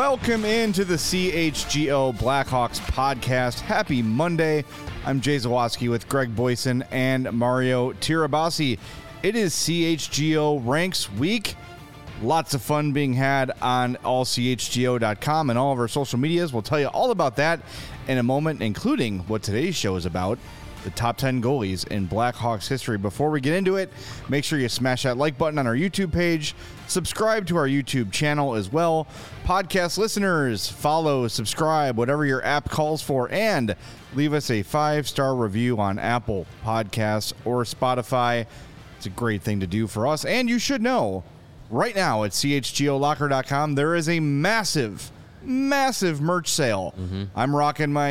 Welcome into the CHGO Blackhawks podcast. Happy Monday. I'm Jay Zawoski with Greg Boyson and Mario Tirabassi. It is CHGO Ranks Week. Lots of fun being had on allchgo.com and all of our social medias. We'll tell you all about that in a moment, including what today's show is about, the top 10 goalies in Blackhawks history. Before we get into it, make sure you smash that like button on our YouTube page. Subscribe to our YouTube channel as well. Podcast listeners, follow, subscribe, whatever your app calls for, and leave us a 5-star review on Apple Podcasts or Spotify. It's a great thing to do for us. And you should know, right now at chgolocker.com, there is a massive merch sale. I'm rocking my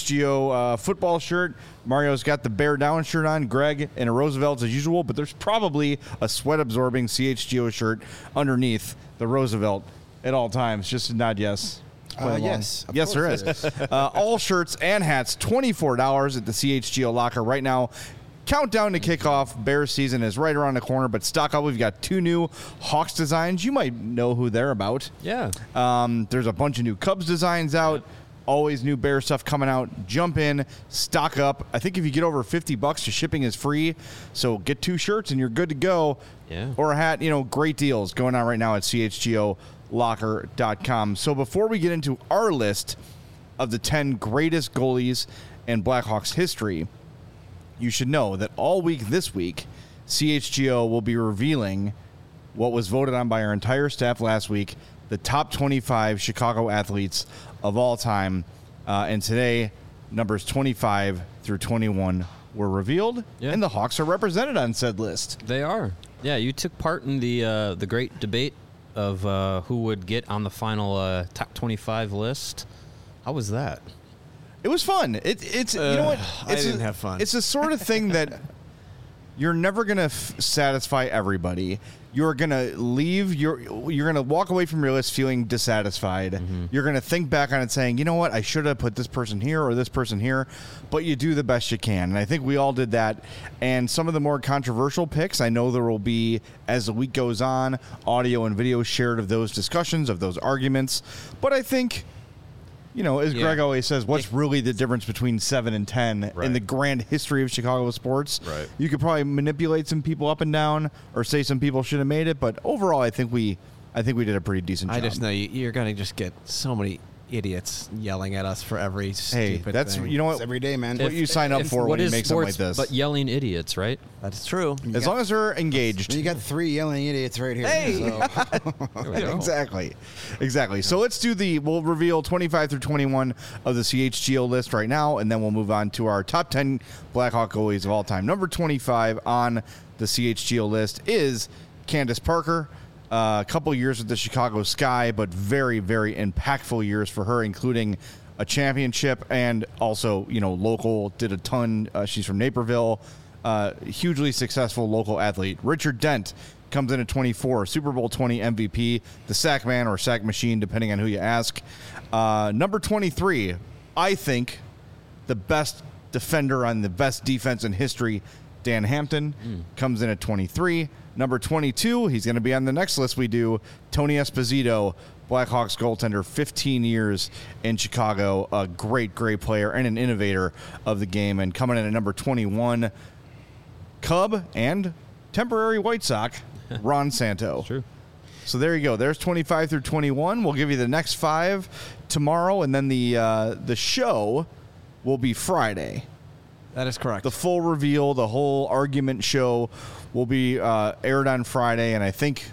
CHGO football shirt. Mario's got the Bear Down shirt on. Greg in a Roosevelt as usual, but there's probably a sweat-absorbing CHGO shirt underneath the Roosevelt at all times. Just a nod yes. Yes. Yes, there is. All shirts and hats, $24 at the CHGO Locker right now. Countdown to kickoff. Bears season is right around the corner, but stock up. We've got 2 new Hawks designs. You might know who they're about. Yeah. There's a bunch of new Cubs designs out. Always new Bear stuff coming out. Jump in, stock up. I think if you get over $50, the shipping is free. So get 2 shirts and you're good to go. Yeah. Or a hat. Great deals going on right now at chgolocker.com. So before we get into our list of the 10 greatest goalies in Blackhawks history, you should know that all week this week, CHGO will be revealing what was voted on by our entire staff last week, the top 25 Chicago athletes of all time. And today, numbers 25 through 21 were revealed, and the Hawks are represented on said list. They are. Yeah, you took part in the great debate of who would get on the final top 25 list. How was that? It was fun. It's you know what? I didn't have fun. It's the sort of thing that you're never going to satisfy everybody. You're going to leave. You're going to walk away from your list feeling dissatisfied. You're going to think back on it saying, you know what? I should have put this person here or this person here. But you do the best you can. And I think we all did that. And some of the more controversial picks, I know there will be, as the week goes on, audio and video shared of those discussions, of those arguments. But I think, as Greg always says, what's really the difference between 7 and 10 in the grand history of Chicago sports? Right. You could probably manipulate some people up and down or say some people should have made it, but overall, I think we did a pretty decent job. I just know you're going to just get so many idiots yelling at us for every stupid thing. You know what? It's every day, man. What you sign up for when you make something like this. But yelling idiots, right? That's true. As long as they're engaged. You got 3 yelling idiots right here. Hey! So. Exactly. So let's we'll reveal 25 through 21 of the CHGO list right now, and then we'll move on to our top 10 Blackhawk goalies of all time. Number 25 on the CHGO list is Candace Parker. A couple years with the Chicago Sky, but very, very impactful years for her, including a championship and also, local, did a ton. She's from Naperville. Hugely successful local athlete. Richard Dent comes in at 24, Super Bowl 20 MVP, the sack man or sack machine, depending on who you ask. Number 23, I think the best defender on the best defense in history, Dan Hampton, comes in at 23. Number 22, he's going to be on the next list we do, Tony Esposito, Blackhawks goaltender, 15 years in Chicago, a great player and an innovator of the game. And coming in at number 21, Cub and temporary White Sox, Ron Santo. True. So there you go. There's 25 through 21. We'll give you the next 5 tomorrow, and then the show will be Friday. That is correct. The full reveal, the whole argument show will be aired on Friday, and I think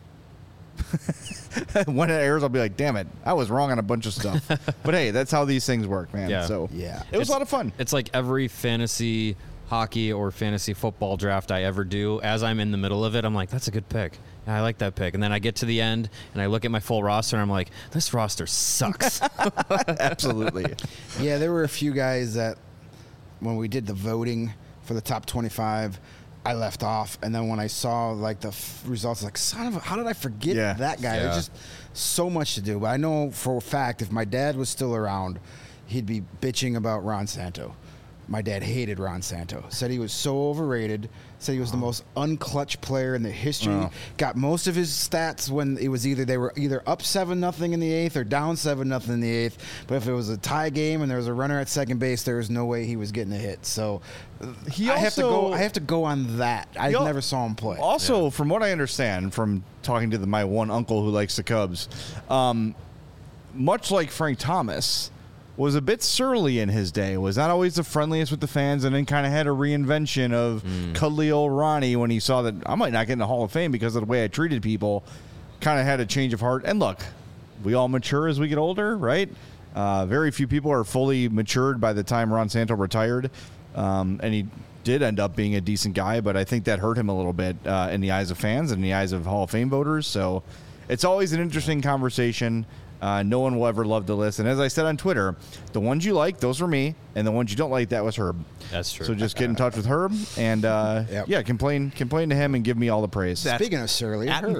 when it airs, I'll be like, damn it, I was wrong on a bunch of stuff. But hey, that's how these things work, man. Yeah. So Yeah. it was a lot of fun. It's like every fantasy hockey or fantasy football draft I ever do, as I'm in the middle of it, I'm like, that's a good pick. Yeah, I like that pick. And then I get to the end, and I look at my full roster, and I'm like, this roster sucks. Absolutely. Yeah, there were a few guys that when we did the voting for the top 25, I left off. And then when I saw the results, son of a, how did I forget that guy? Yeah. There's just so much to do. But I know for a fact, if my dad was still around, he'd be bitching about Ron Santo. my dad hated Ron Santo. Said he was so overrated. Said he was the most unclutch player in the history. Got most of his stats when it was they were either up 7-0 in the 8th or down 7-0 in the 8th. But if it was a tie game and there was a runner at second base, there was no way he was getting a hit. So I have to go on that. I never saw him play. Also, from what I understand from talking to my one uncle who likes the Cubs, much like Frank Thomas, was a bit surly in his day, was not always the friendliest with the fans, and then kind of had a reinvention of cuddly old Ronnie when he saw that I might not get in the Hall of Fame because of the way I treated people, kind of had a change of heart. And look, we all mature as we get older, right? Very few people are fully matured by the time Ron Santo retired, and he did end up being a decent guy, but I think that hurt him a little bit in the eyes of fans and in the eyes of Hall of Fame voters. So it's always an interesting conversation. No one will ever love the list. And as I said on Twitter, the ones you like, those were me. And the ones you don't like, that was Herb. That's true. So just get in touch with Herb and, complain to him and give me all the praise. Speaking of surly, Herb.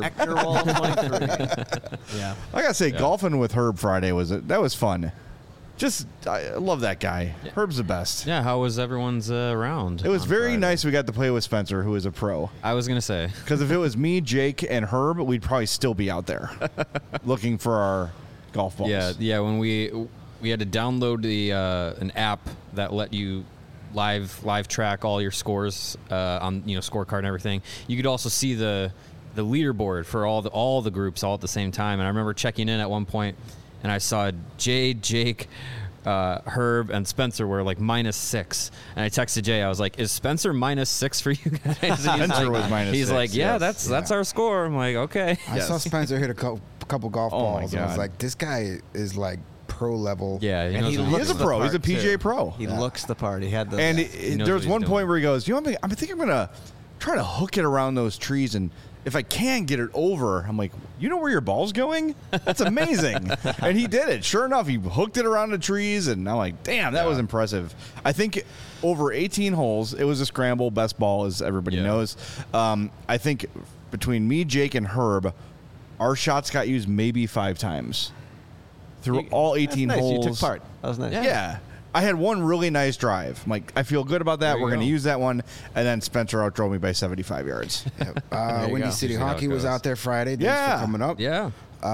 Yeah. I got to say, golfing with Herb Friday was fun. I love that guy. Yeah. Herb's the best. Yeah, how was everyone's round? It was very nice we got to play with Spencer, who is a pro. I was going to say. Because if it was me, Jake, and Herb, we'd probably still be out there looking for our golf balls. Yeah. When we had to download an app that let you live track all your scores on scorecard and everything. You could also see the leaderboard for all the groups all at the same time. And I remember checking in at one point, and I saw Jay, Jake, Herb, and Spencer were like -6. And I texted Jay. I was like, "Is Spencer -6 for you guys?" Spencer was -6. He's like, "Yeah, that's our score." I'm like, "Okay." I saw Spencer hit a couple golf balls, and I was like, "This guy is like pro level." Yeah, and he is a pro. He's a PGA pro. He looks the part. He had the. And there was one point where he goes, "You know what? I think I'm gonna try to hook it around those trees and." If I can get it over, I'm like, you know where your ball's going? That's amazing. And he did it. Sure enough, he hooked it around the trees, and I'm like, damn, that was impressive. I think over 18 holes, it was a scramble, best ball, as everybody knows. I think between me, Jake, and Herb, our shots got used maybe 5 times through all 18 holes. You took part. That was nice. Yeah. I had one really nice drive. I'm like, I feel good about that. We're going to use that one. And then Spencer outdrove me by 75 yards. Windy City Hockey was out there Friday. Thanks for coming up. Yeah.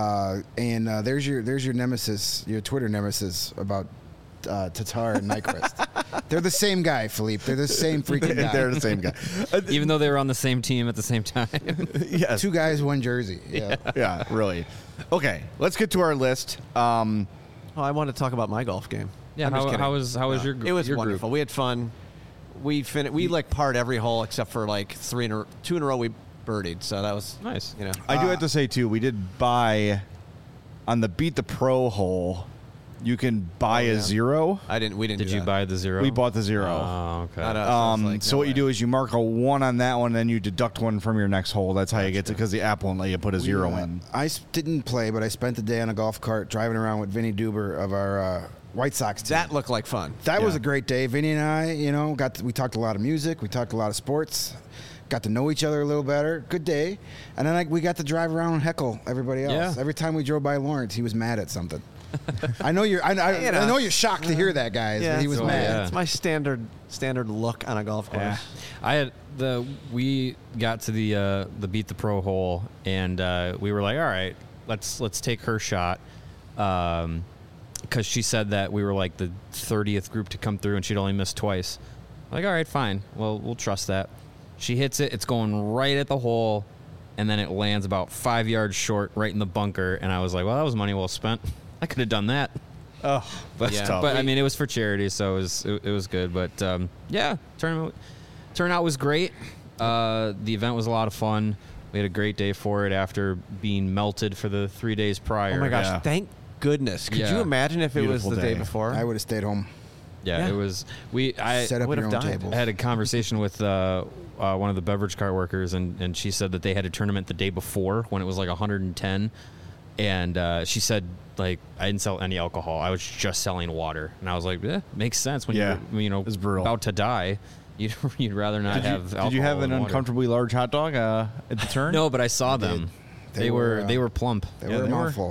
And there's your nemesis, your Twitter nemesis about Tatar and Nyquist. They're the same guy, Philippe. They're the same freaking guy. They're the same guy. Even though they were on the same team at the same time. Yes. 2 guys, 1 jersey. Yeah, really. Okay, let's get to our list. I want to talk about my golf game. Yeah, how was your group? It was your wonderful. Group? We had fun. We like parred every hole except for like 2 in a row we birdied. So that was nice. I do have to say too, we did buy on the Beat the Pro hole. You can buy a 0. We didn't. Did you buy the 0? We bought the 0. Oh, okay. So what you do is you mark a 1 on that one, then you deduct 1 from your next hole. That's how you get to, because the app won't let you put a 0 in. I didn't play, but I spent the day on a golf cart driving around with Vinny Duber of our White Sox team. That looked like fun. That was a great day. Vinny and I, we talked a lot of music. We talked a lot of sports. Got to know each other a little better. Good day. And then we got to drive around and heckle everybody else. Yeah. Every time we drove by Lawrence, he was mad at something. I know you're shocked to hear that, guys. But he was mad. Yeah. It's my standard look on a golf course. Yeah. We got to the Beat the Pro hole, and we were like, all right, let's take her shot. Because she said that we were like the 30th group to come through and she'd only missed twice. I'm like, all right, fine. Well, we'll trust that. She hits it. It's going right at the hole, and then it lands about 5 yards short right in the bunker. And I was like, well, that was money well spent. I could have done that. Oh, that's tough. But I mean, it was for charity, so it was good. But turnout was great. The event was a lot of fun. We had a great day for it after being melted for the 3 days prior. Oh my gosh! Thank goodness. Could you imagine if it was the day before? I would have stayed home. Yeah, it was. I set up your own table. I had a conversation with one of the beverage cart workers, and she said that they had a tournament the day before when it was like 110, and she said, like, I didn't sell any alcohol. I was just selling water, and I was like, makes sense when you're about to die. You'd rather not have alcohol. Did you have an and uncomfortably large hot dog at the turn? No, but I saw them. They were plump. They were a mouthful.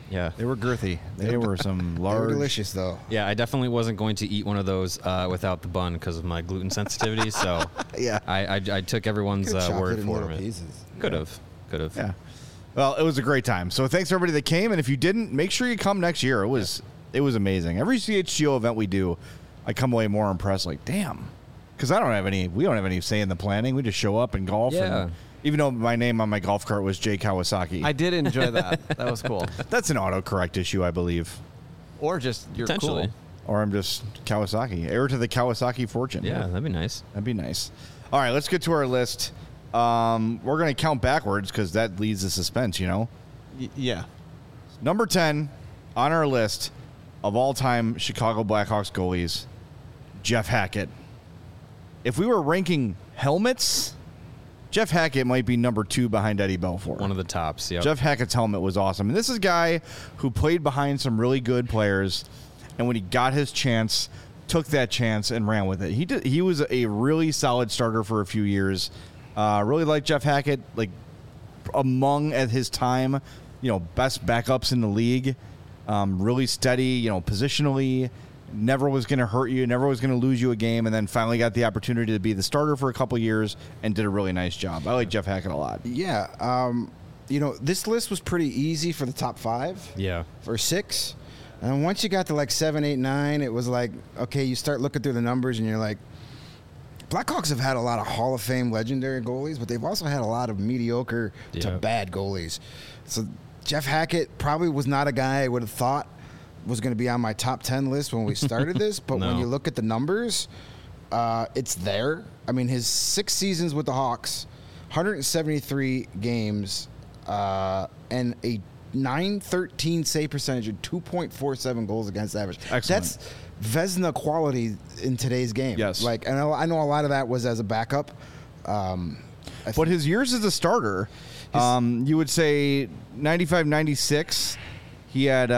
Yeah. They were girthy. They were some They were large. delicious, though. Yeah, I definitely wasn't going to eat one of those without the bun because of my gluten sensitivity. So Yeah. I took everyone's Could've chopped word it in for little it. pieces. Could have. Yeah. Well, it was a great time. So thanks to everybody that came, and if you didn't, make sure you come next year. It was amazing. Every CHGO event we do, I come away more impressed. Like, damn, because we don't have any say in the planning. We just show up and golf. Yeah. And even though my name on my golf cart was Jay Kawasaki, I did enjoy that. That was cool. that's an autocorrect issue, I believe. Or just you're Potentially. cool. Or I'm just Kawasaki, heir to the Kawasaki fortune. Yeah, that'd be nice. That'd be nice. All right, let's get to our list. We're going to count backwards because that leads to suspense, you know? Yeah. Number 10 on our list of all-time Chicago Blackhawks goalies, Jeff Hackett. If we were ranking helmets, Jeff Hackett might be number 2 behind Eddie Belfour. One of the tops. Yeah. Jeff Hackett's helmet was awesome. And this is a guy who played behind some really good players, and when he got his chance, took that chance and ran with it. He was a really solid starter for a few years. Really liked Jeff Hackett, like among at his time, best backups in the league. Really steady, positionally. Never was going to hurt you, never was going to lose you a game, and then finally got the opportunity to be the starter for a couple years and did a really nice job. I like Jeff Hackett a lot. Yeah. This list was pretty easy for the top 5. Yeah. Or 6. And once you got to like 7, 8, 9, it was like, okay, you start looking through the numbers and you're like, Blackhawks have had a lot of Hall of Fame legendary goalies, but they've also had a lot of mediocre to bad goalies. So Jeff Hackett probably was not a guy I would have thought was going to be on my top 10 list when we started this, but when you look at the numbers, it's there. I mean, his 6 seasons with the Hawks, 173 games, and a .913 save percentage and 2.47 goals against average. Excellent. That's Vezina quality in today's game. Yes. Like, and I know a lot of that was as a backup. But his years as a starter, you would say 95, 96, he had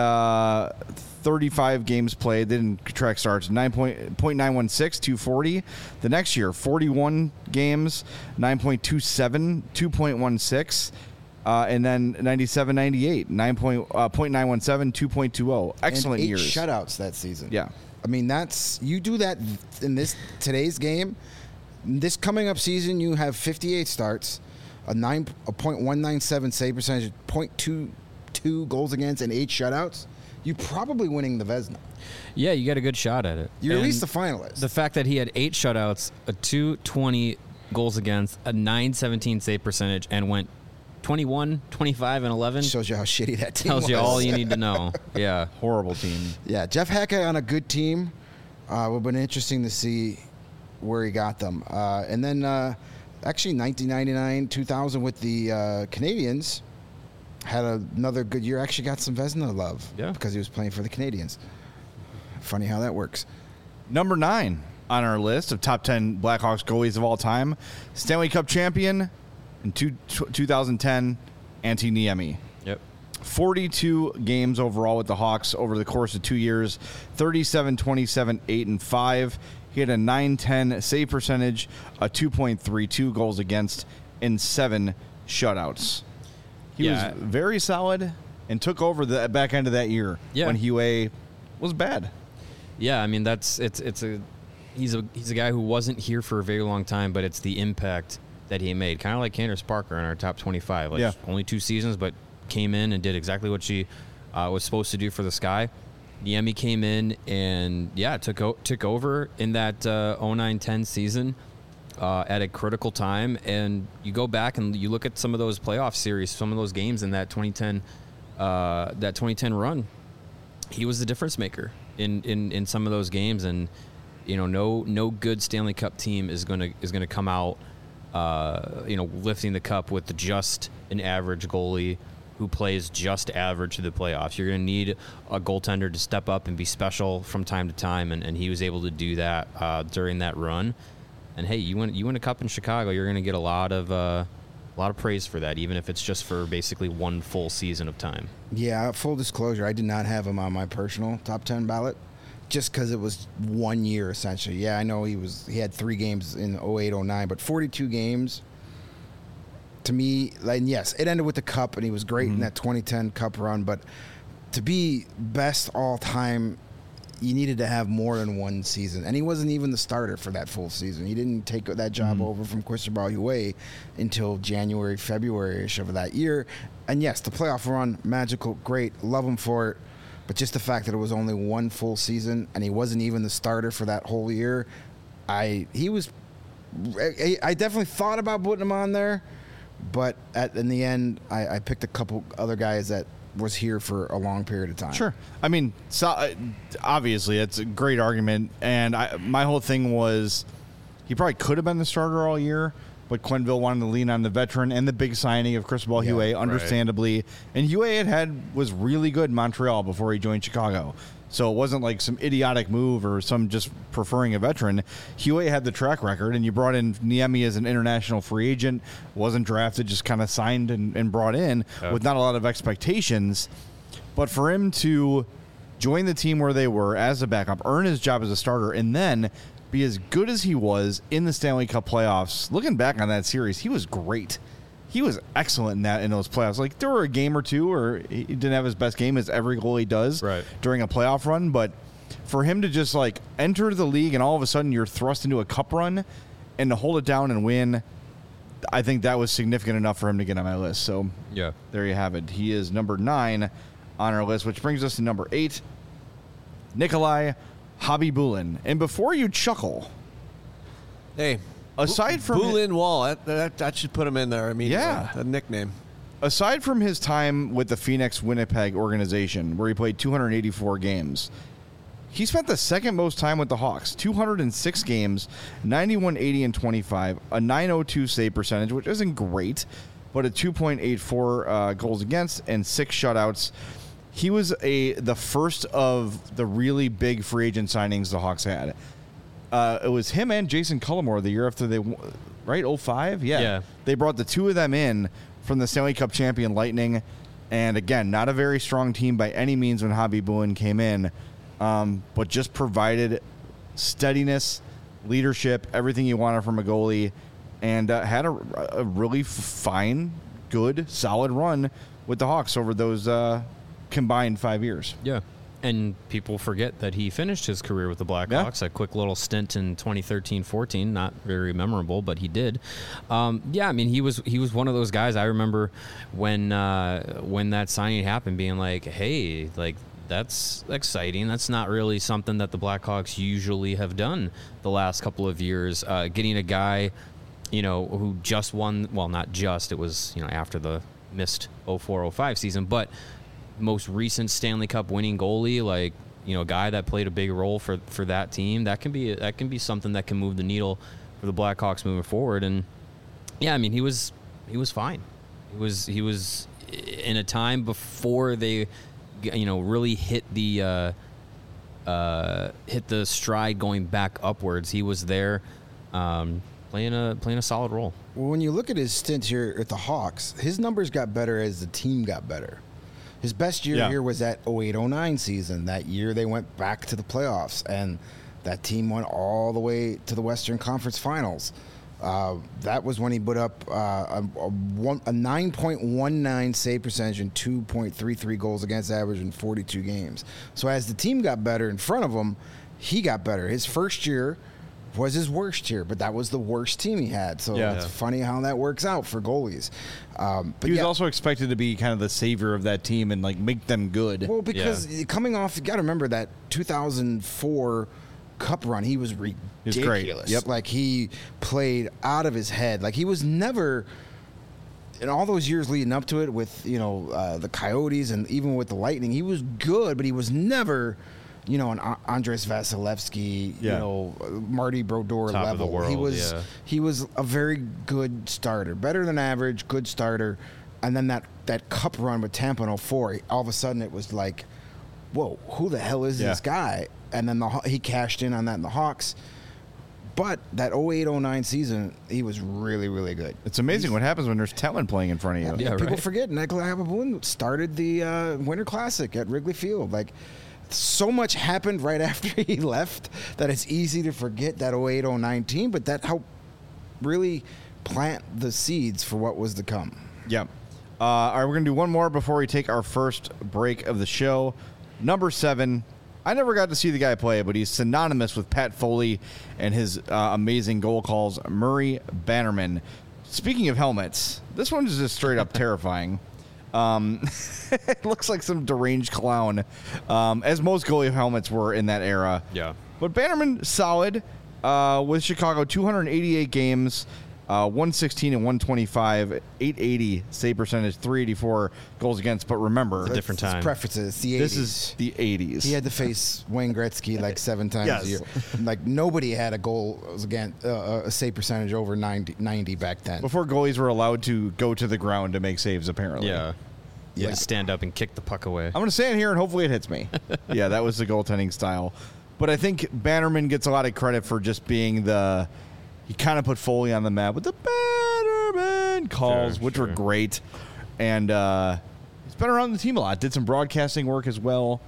35 games played, didn't track starts, 9.916, 240. The next year, 41 games, 9.27, 2.16. And then 97, 98, 0.917, 2.20. Excellent and 8 years. shutouts that season. Yeah. I mean, you do that in today's game. This coming up season, you have 58 starts, a .197 save percentage, 0.22 goals against, and 8 shutouts. You're probably winning the Vezina. Yeah, you got a good shot at it. You're at And least the finalist. The fact that he had 8 shutouts, a 220 goals against, a .917 save percentage, and went 21, 25, and 11 shows you how shitty that team tells was. you all you need to know. Yeah. Horrible team. Yeah, Jeff Hackett on a good team. Would have been interesting to see where he got them. And then, actually, 1999, 2000 with the Canadiens, had another good year. Actually got some Vezina love because he was playing for the Canadiens. Funny how that works. Number 9 on our list of top 10 Blackhawks goalies of all time, Stanley Cup champion in 2010, Antti Niemi. Yep. 42 games overall with the Hawks over the course of 2 years, 37, 27, 8, and 5. He had a .910 save percentage, a 2.32 goals against, and 7 shutouts. He was very solid and took over the back end of that year when Huey was bad. Yeah, I mean he's a guy who wasn't here for a very long time, but it's the impact that he made. Kind of like Candace Parker in our top 25. Like only 2 seasons, but came in and did exactly what she was supposed to do for the Sky. Niemi came in and took over in that 09-10 season at a critical time. And you go back and you look at some of those playoff series, some of those games in that 2010 run. He was the difference maker in some of those games, and no good Stanley Cup team is gonna come out lifting the cup with just an average goalie who plays just average to the playoffs. You're going to need a goaltender to step up and be special from time to time, and he was able to do that during that run. And hey, you win a cup in Chicago, you're going to get a lot of praise for that, even if it's just for basically one full season of time. Yeah, full disclosure, I did not have him on my personal top 10 ballot just because it was 1 year essentially. Yeah, I know he had 3 games in 08-09, but 42 games. To me, like, yes, it ended with the cup, and he was great in that 2010 cup run. But to be best all time, you needed to have more than one season. And he wasn't even the starter for that full season. He didn't take that job over from Cristobal Huet until January, February-ish of that year. And yes, the playoff run, magical, great, love him for it. But just the fact that it was only one full season and he wasn't even the starter for that whole year, I definitely thought about putting him on there. But in the end, I picked a couple other guys that was here for a long period of time. Sure. I mean, so, obviously, it's a great argument. And my whole thing was he probably could have been the starter all year, but Quenneville wanted to lean on the veteran and the big signing of Cristobal Huet, understandably. And Huet was really good in Montreal before he joined Chicago. So it wasn't like some idiotic move or some just preferring a veteran. Huet had the track record, and you brought in Niemi as an international free agent, wasn't drafted, just kind of signed and brought in with not a lot of expectations. But for him to join the team where they were as a backup, earn his job as a starter, and then be as good as he was in the Stanley Cup playoffs, looking back on that series, he was great. He was excellent in those playoffs. Like, there were a game or two where he didn't have his best game, as every goalie does during a playoff run. But for him to just, like, enter the league and all of a sudden you're thrust into a cup run and to hold it down and win, I think that was significant enough for him to get on my list. So, yeah, there you have it. He is number 9 on our list, which brings us to number 8, Nikolai Khabibulin. And before you chuckle, hey, aside from Bulin Wall, that should put him in there. I mean, yeah, a nickname. Aside from his time with the Phoenix Winnipeg organization, where he played 284 games, he spent the second most time with the Hawks, 206 games, 91, 80, and 25, a .902 save percentage, which isn't great, but a 2.84 goals against and 6 shutouts. He was the first of the really big free agent signings the Hawks had. It was him and Jason Cullimore the year after they, right? 05? Yeah. They brought the two of them in from the Stanley Cup champion Lightning. And again, not a very strong team by any means when Khabibulin came in, but just provided steadiness, leadership, everything you wanted from a goalie, and had a really fine, good, solid run with the Hawks over those combined 5 years. Yeah. And people forget that he finished his career with the Blackhawks. A quick little stint in 2013-14, not very memorable, but he did. I mean, he was one of those guys. I remember when that signing happened, being like, "Hey, like that's exciting. That's not really something that the Blackhawks usually have done the last couple of years. Getting a guy, who just won. Well, not just. It was after the missed 04-05 season, but." Most recent Stanley Cup winning goalie, like a guy that played a big role for that team, that can be something that can move the needle for the Blackhawks moving forward. And yeah, I mean he was fine. He was in a time before they really hit the stride going back upwards. He was there playing a solid role. Well, when you look at his stint here at the Hawks, his numbers got better as the team got better. His best year here was that 08-09 season. That year they went back to the playoffs, and that team went all the way to the Western Conference Finals. That was when he put up a 9.19 save percentage and 2.33 goals against average in 42 games. So as the team got better in front of him, he got better. His first year was his worst year, but that was the worst team he had. So it's funny how that works out for goalies. But he was also expected to be kind of the savior of that team and like make them good. Well, because coming off, you got to remember that 2004 Cup run, he was ridiculous. He was great. Yep. Like he played out of his head. Like he was never, in all those years leading up to it with the Coyotes and even with the Lightning, he was good, but he was never an Andres Vasilevsky, Marty Brodeur top level. Of the world, he was a very good starter, better than average, good starter. And then that Cup run with Tampa in 04, all of a sudden it was like, whoa, who the hell is this guy? And then he cashed in on that in the Hawks. But that 08-09 season, he was really, really good. It's amazing what happens when there's talent playing in front of you. Yeah, people forget Nikolai Khabibulin started the Winter Classic at Wrigley Field. Like, so much happened right after he left that it's easy to forget that 08-09 team, but that helped really plant the seeds for what was to come. Yeah. All right, we're going to do one more before we take our first break of the show. Number 7. I never got to see the guy play, but he's synonymous with Pat Foley and his amazing goal calls, Murray Bannerman. Speaking of helmets, this one is just straight up terrifying. It looks like some deranged clown, as most goalie helmets were in that era. Yeah. But Bannerman, solid with Chicago, 288 games, 116 and 125, 880 save percentage, 384 goals against. But remember, It's a different time. Let's preface it. It's the 80s. this is the 80s. He had to face Wayne Gretzky like 7 times Yes. a year. Like nobody had a goal against a save percentage over 90 back then. Before goalies were allowed to go to the ground to make saves, apparently. Yeah. Yeah. Like stand up and kick the puck away. I'm going to stand here and hopefully it hits me. Yeah, that was the goaltending style. But I think Bannerman gets a lot of credit for just being he kind of put Foley on the map with the Bannerman calls, Sure, which sure. were great. And he's been around the team a lot. Did some broadcasting work as well.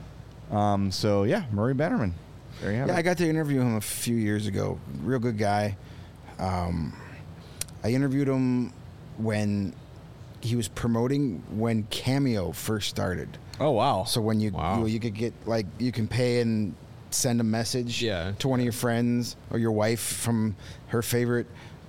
So, yeah, Murray Bannerman. There you have Yeah, it. I got to interview him a few years ago. Real good guy. I interviewed him when he was promoting when Cameo first started. Oh, wow. So when Wow. you could get you can pay and send a message Yeah. to one of your friends or your wife from her favorite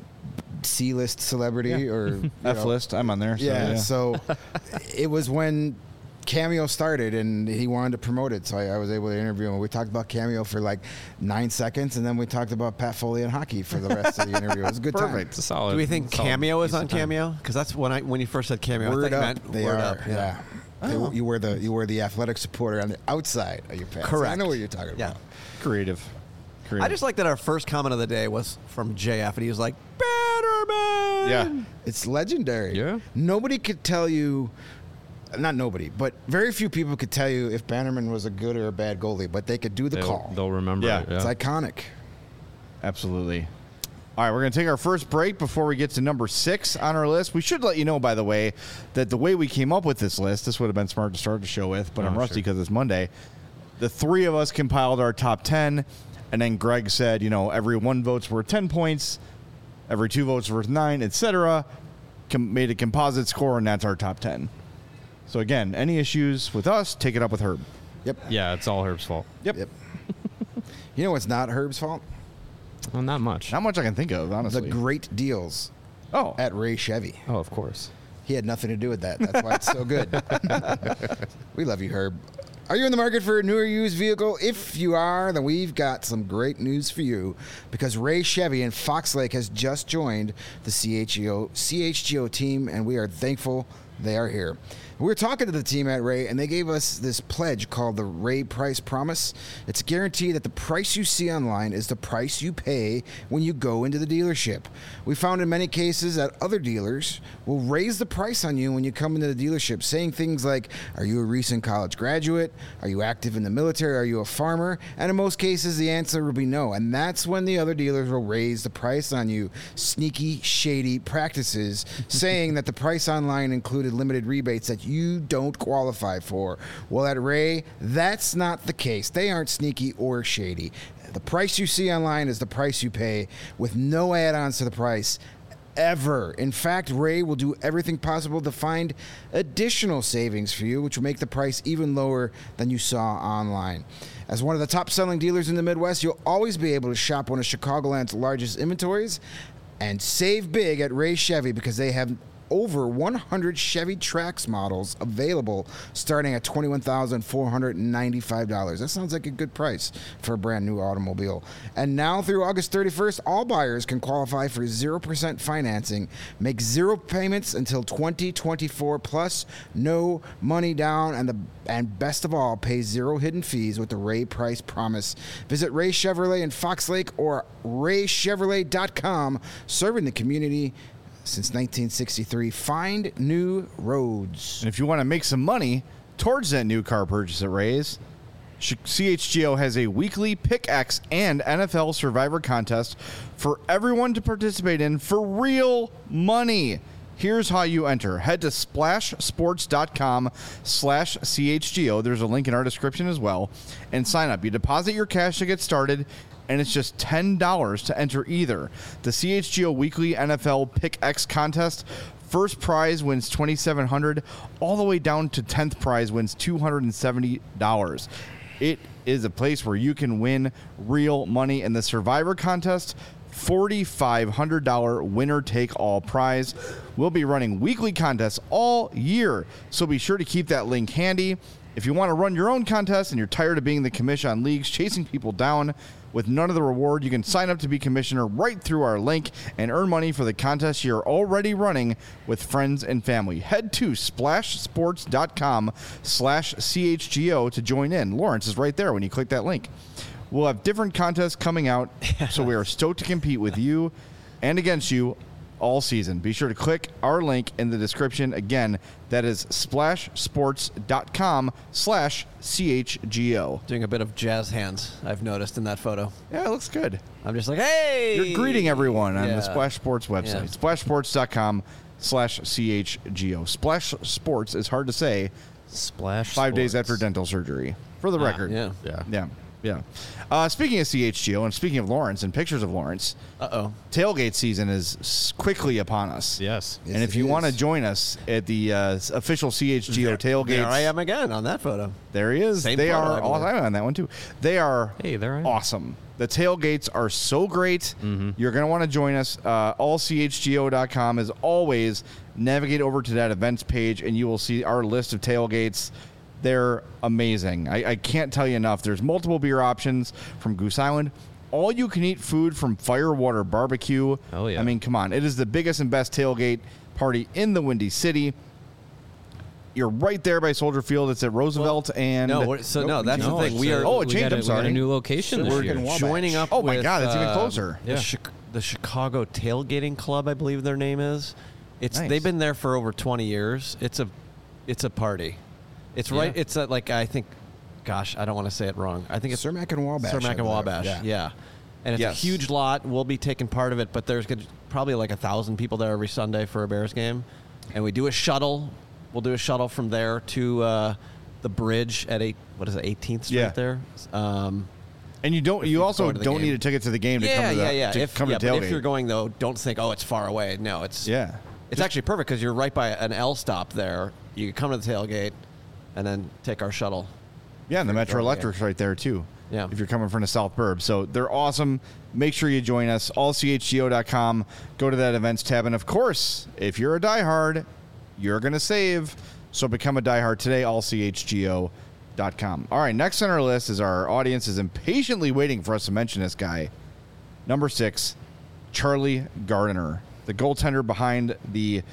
C-list celebrity or you know. F-list. I'm on there. So, Yeah, so it was when Cameo started and he wanted to promote it, so I was able to interview him. We talked about Cameo for like 9 seconds, and then we talked about Pat Foley and hockey for the rest of the interview. It was a good time. It's a solid. Do we think solid Cameo is piece on of time. Cameo? Because that's when you first said Cameo. I Word thought you up, meant they Word are. Up. Yeah. You wear the athletic supporter on the outside of your pants. Correct. I know what you're talking Yeah. about. Creative. I just like that our first comment of the day was from JF, and he was like, Bannerman! Yeah. It's legendary. Yeah. Nobody could tell you, not nobody, but very few people could tell you if Bannerman was a good or a bad goalie, but they could do the call. They'll remember Yeah. it. It's iconic. Absolutely. All right, we're going to take our first break before we get to number 6 on our list. We should let you know, by the way, that the way we came up with this list, this would have been smart to start the show with, but I'm rusty sure. because it's Monday. The 3 of us compiled our top 10, and then Greg said, every 1 vote's worth 10 points, every 2 votes worth 9, etc. Made a composite score, and that's our top 10. So again, any issues with us, take it up with Herb. Yep. Yeah, it's all Herb's fault. Yep. You know what's not Herb's fault? Well, not much. Not much I can think of, honestly. The great deals Oh, at Ray Chevy. Oh, of course. He had nothing to do with that. That's why it's so good. We love you, Herb. Are you in the market for a new or used vehicle? If you are, then we've got some great news for you, because Ray Chevy in Fox Lake has just joined the CHGO team, and we are thankful they are here. We were talking to the team at Ray, and they gave us this pledge called the Ray Price Promise. It's a guarantee that the price you see online is the price you pay when you go into the dealership. We found in many cases that other dealers will raise the price on you when you come into the dealership, saying things like, are you a recent college graduate? Are you active in the military? Are you a farmer? And in most cases, the answer will be no. And that's when the other dealers will raise the price on you. Sneaky, shady practices, saying that the price online included limited rebates that you don't qualify for. Well, at Ray, that's not the case. They aren't sneaky or shady. The price you see online is the price you pay, with no add-ons to the price ever. In fact, Ray will do everything possible to find additional savings for you, which will make the price even lower than you saw online. As one of the top-selling dealers in the Midwest, you'll always be able to shop one of Chicagoland's largest inventories and save big at Ray Chevy, because they have over 100 Chevy Trax models available starting at $21,495. That sounds like a good price for a brand new automobile. And now through August 31st, all buyers can qualify for 0% financing, make 0 payments until 2024, plus no money down, and best of all, pay 0 hidden fees with the Ray Price Promise. Visit Ray Chevrolet in Fox Lake or raychevrolet.com, serving the community since 1963. Find new roads. And if you want to make some money towards that new car purchase at Ray's, CHGO has a weekly Pick X and NFL Survivor contest for everyone to participate in for real money. Here's how you enter. Head to splashsports.com/CHGO. There's a link in our description as well. And sign up. You deposit your cash to get started, and it's just $10 to enter either the CHGO Weekly NFL Pick X contest First prize wins $2,700, all the way down to 10th prize wins $270. It is a place where you can win real money in the Survivor contest. $4,500 winner-take-all prize. We'll be running weekly contests all year, so be sure to keep that link handy. If you want to run your own contest and you're tired of being the commish on leagues, chasing people down with none of the reward, you can sign up to be commissioner right through our link and earn money for the contest you're already running with friends and family. Head to splashsports.com/CHGO to join in. Lawrence is right there when you click that link. We'll have different contests coming out, so we are stoked to compete with you and against you all season. Be sure to click our link in the description. Again, that is splashsports.com/CHGO. Doing a bit of jazz hands, I've noticed in that photo. Yeah, it looks good. I'm just like, hey! You're greeting everyone on Yeah. the Splash Sports website. Yeah. Splashsports.com/CHGO. Splash Sports is hard to say. Splash 5 days Sports. after dental surgery, for the record. Yeah. Yeah. Yeah. Speaking of CHGO and speaking of Lawrence and pictures of Lawrence, Uh-oh. tailgate season is quickly upon us. Yes. Yes, And if it you want to is. join us at the official CHGO tailgates, There I am again on that photo. there he is. Same They photo, I are believe. awesome. I'm on that one too. They are Hey, there I am. awesome. The tailgates are so great. Mm-hmm. You're going to want to join us. Allchgo.com as always. Navigate over to that events page and you will see our list of tailgates. They're amazing. I can't tell you enough. There's multiple beer options from Goose Island. All you can eat food from Firewater Barbecue. Oh, yeah. I mean, come on. It is the biggest and best tailgate party in the Windy City. You're right there by Soldier Field. It's at Roosevelt and No, that's the thing. We are Oh, it changed. I'm We got sorry. a new location this we're year. in Wabash. joining up Oh, my with, God, it's even closer. The, Yeah. the Chicago Tailgating Club, I believe their name is. Nice. They've been there for over 20 years. It's a party. It's right. Yeah. It's like I think, gosh, I don't want to say it wrong. I think it's Cermak and Wabash. Cermak I and believe. Wabash. Yeah. And it's Yes. a huge lot. We'll be taking part of it, but there's probably like 1,000 people there every Sunday for a Bears game, and we do a shuttle. We'll do a shuttle from there to the bridge at 18th Street Yeah. there. And you don't. If You you also go to the don't game. need a ticket to the game to Yeah, come to the come to but tailgate. if you're going though, don't think, oh, it's far away. No, it's Yeah. It's actually perfect because you're right by an L stop there. You can come to the tailgate, and then take our shuttle. Yeah, and the Metro Tailgate. Electric's right there too. Yeah. If you're coming from the South Burb. So they're awesome. Make sure you join us. Allchgo.com. Go to that events tab. And of course, if you're a diehard, you're going to save. So become a diehard today. Allchgo.com. All right, next on our list is our audience is impatiently waiting for us to mention this guy. Number 6, Charlie Gardiner, the goaltender behind the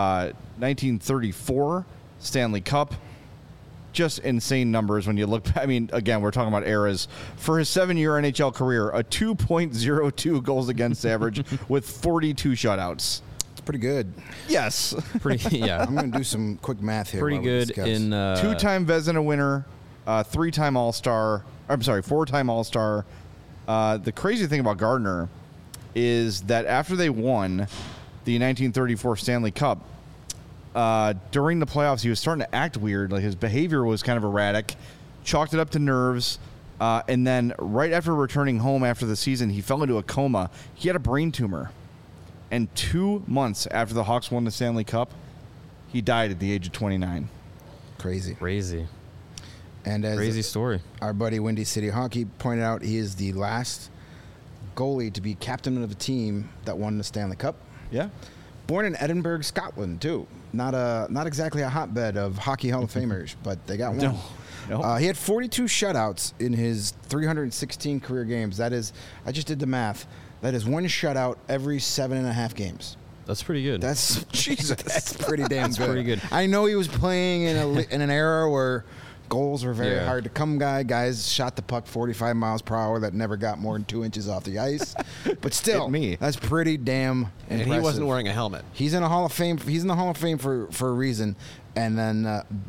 1934 Stanley Cup. Just insane numbers when you look. I mean, again, we're talking about eras. For his 7-year NHL career, a 2.02 goals against average with 42 shutouts. It's pretty good. Yes. Pretty, yeah. I'm going to do some quick math here. Pretty while we good discuss. in. Two-time Vezina winner, 3-time All-Star. I'm sorry, 4-time All-Star. The crazy thing about Gardner is that after they won the 1934 Stanley Cup, during the playoffs, he was starting to act weird. Like his behavior was kind of erratic, chalked it up to nerves. And then right after returning home after the season, he fell into a coma. He had a brain tumor. And 2 months after the Hawks won the Stanley Cup, he died at the age of 29. Crazy. Crazy. And as Crazy story. our buddy Windy City Hockey pointed out, he is the last goalie to be captain of a team that won the Stanley Cup. Yeah. Born in Edinburgh, Scotland, too. Not exactly a hotbed of hockey Hall of Famers, but they got one. No. He had 42 shutouts in his 316 career games. That is, I just did the math. That is one shutout every 7.5 games. That's pretty good. That's Jesus. That's pretty damn good. pretty good. I know he was playing in an era where goals were very Yeah. hard to come. Guys shot the puck 45 miles per hour that never got more than 2 inches off the ice. But still, Hit me. that's pretty damn And impressive. he wasn't wearing a helmet. He's in a Hall of Fame. He's in the Hall of Fame for a reason. And then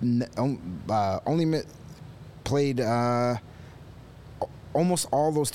played almost all those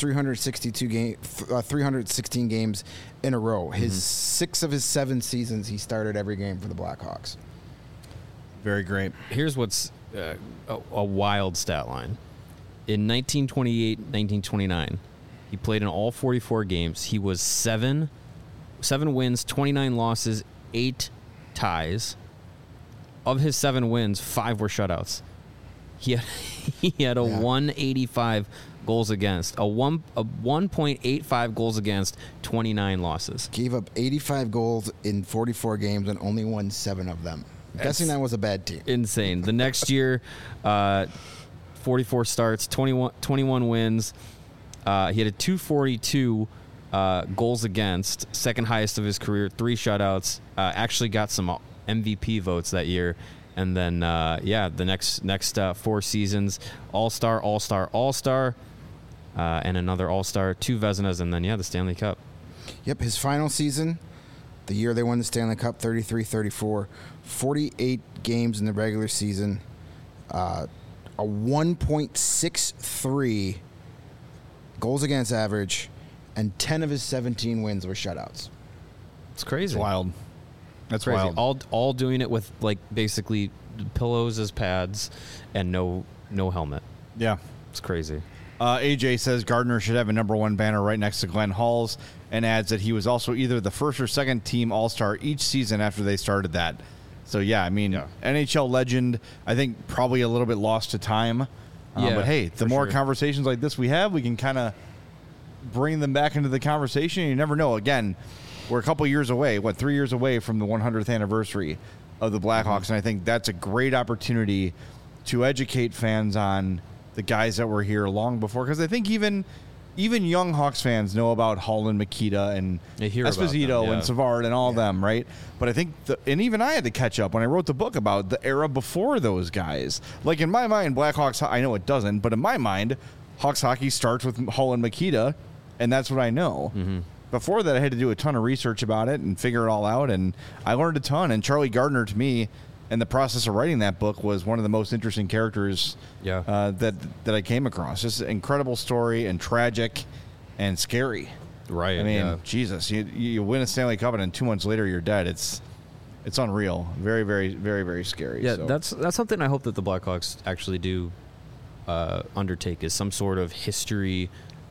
316 games in a row. His 6 of his 7 seasons, he started every game for the Blackhawks. Very great. Here's what's a wild stat line. In 1928, 1929, he played in all 44 games. He was 7 wins, 29 losses, 8 ties. Of his 7 wins, 5 were shutouts. He had a 185 goals against, a 1.85 goals against, 29 losses. Gave up 85 goals in 44 games and only won 7 of them. I'm guessing that was a bad team. Insane. The next year, 44 starts, 21 wins. He had a 242 goals against, second highest of his career, 3 shutouts. Actually got some MVP votes that year. And then, the next 4 seasons, All-Star, All-Star, All-Star, and another All-Star, 2 Vezinas, and then, the Stanley Cup. Yep, his final season, the year they won the Stanley Cup, 33-34, 48 games in the regular season, a 1.63 goals against average, and 10 of his 17 wins were shutouts. It's crazy. It's wild. That's Crazy. wild. All doing it with like basically pillows as pads and no helmet. Yeah. It's crazy. AJ says Gardner should have a number 1 banner right next to Glenn Hall's, and adds that he was also either the first or second team All-Star each season after they started that. So, NHL legend, I think probably a little bit lost to time. But, hey, the more conversations like this we have, we can kind of bring them back into the conversation. You never know. Again, we're a couple years away, 3 years away from the 100th anniversary of the Blackhawks, and I think that's a great opportunity to educate fans on the guys that were here long before, because I think even young Hawks fans know about Hull and Mikita and Esposito and Savard and all of them, right? But I think, and even I had to catch up when I wrote the book about the era before those guys. Like in my mind, Blackhawks, I know it doesn't, but in my mind, Hawks hockey starts with Hull and Mikita, and that's what I know. Mm-hmm. Before that, I had to do a ton of research about it and figure it all out, and I learned a ton. And Charlie Gardner, to me, in the process of writing that book, was one of the most interesting characters that I came across. Just an incredible story, and tragic and scary. Right. I mean, Jesus, you win a Stanley Cup, and then 2 months later you're dead. It's unreal. Very, very, very, very scary. Yeah, so. that's something I hope that the Blackhawks actually do undertake, is some sort of history.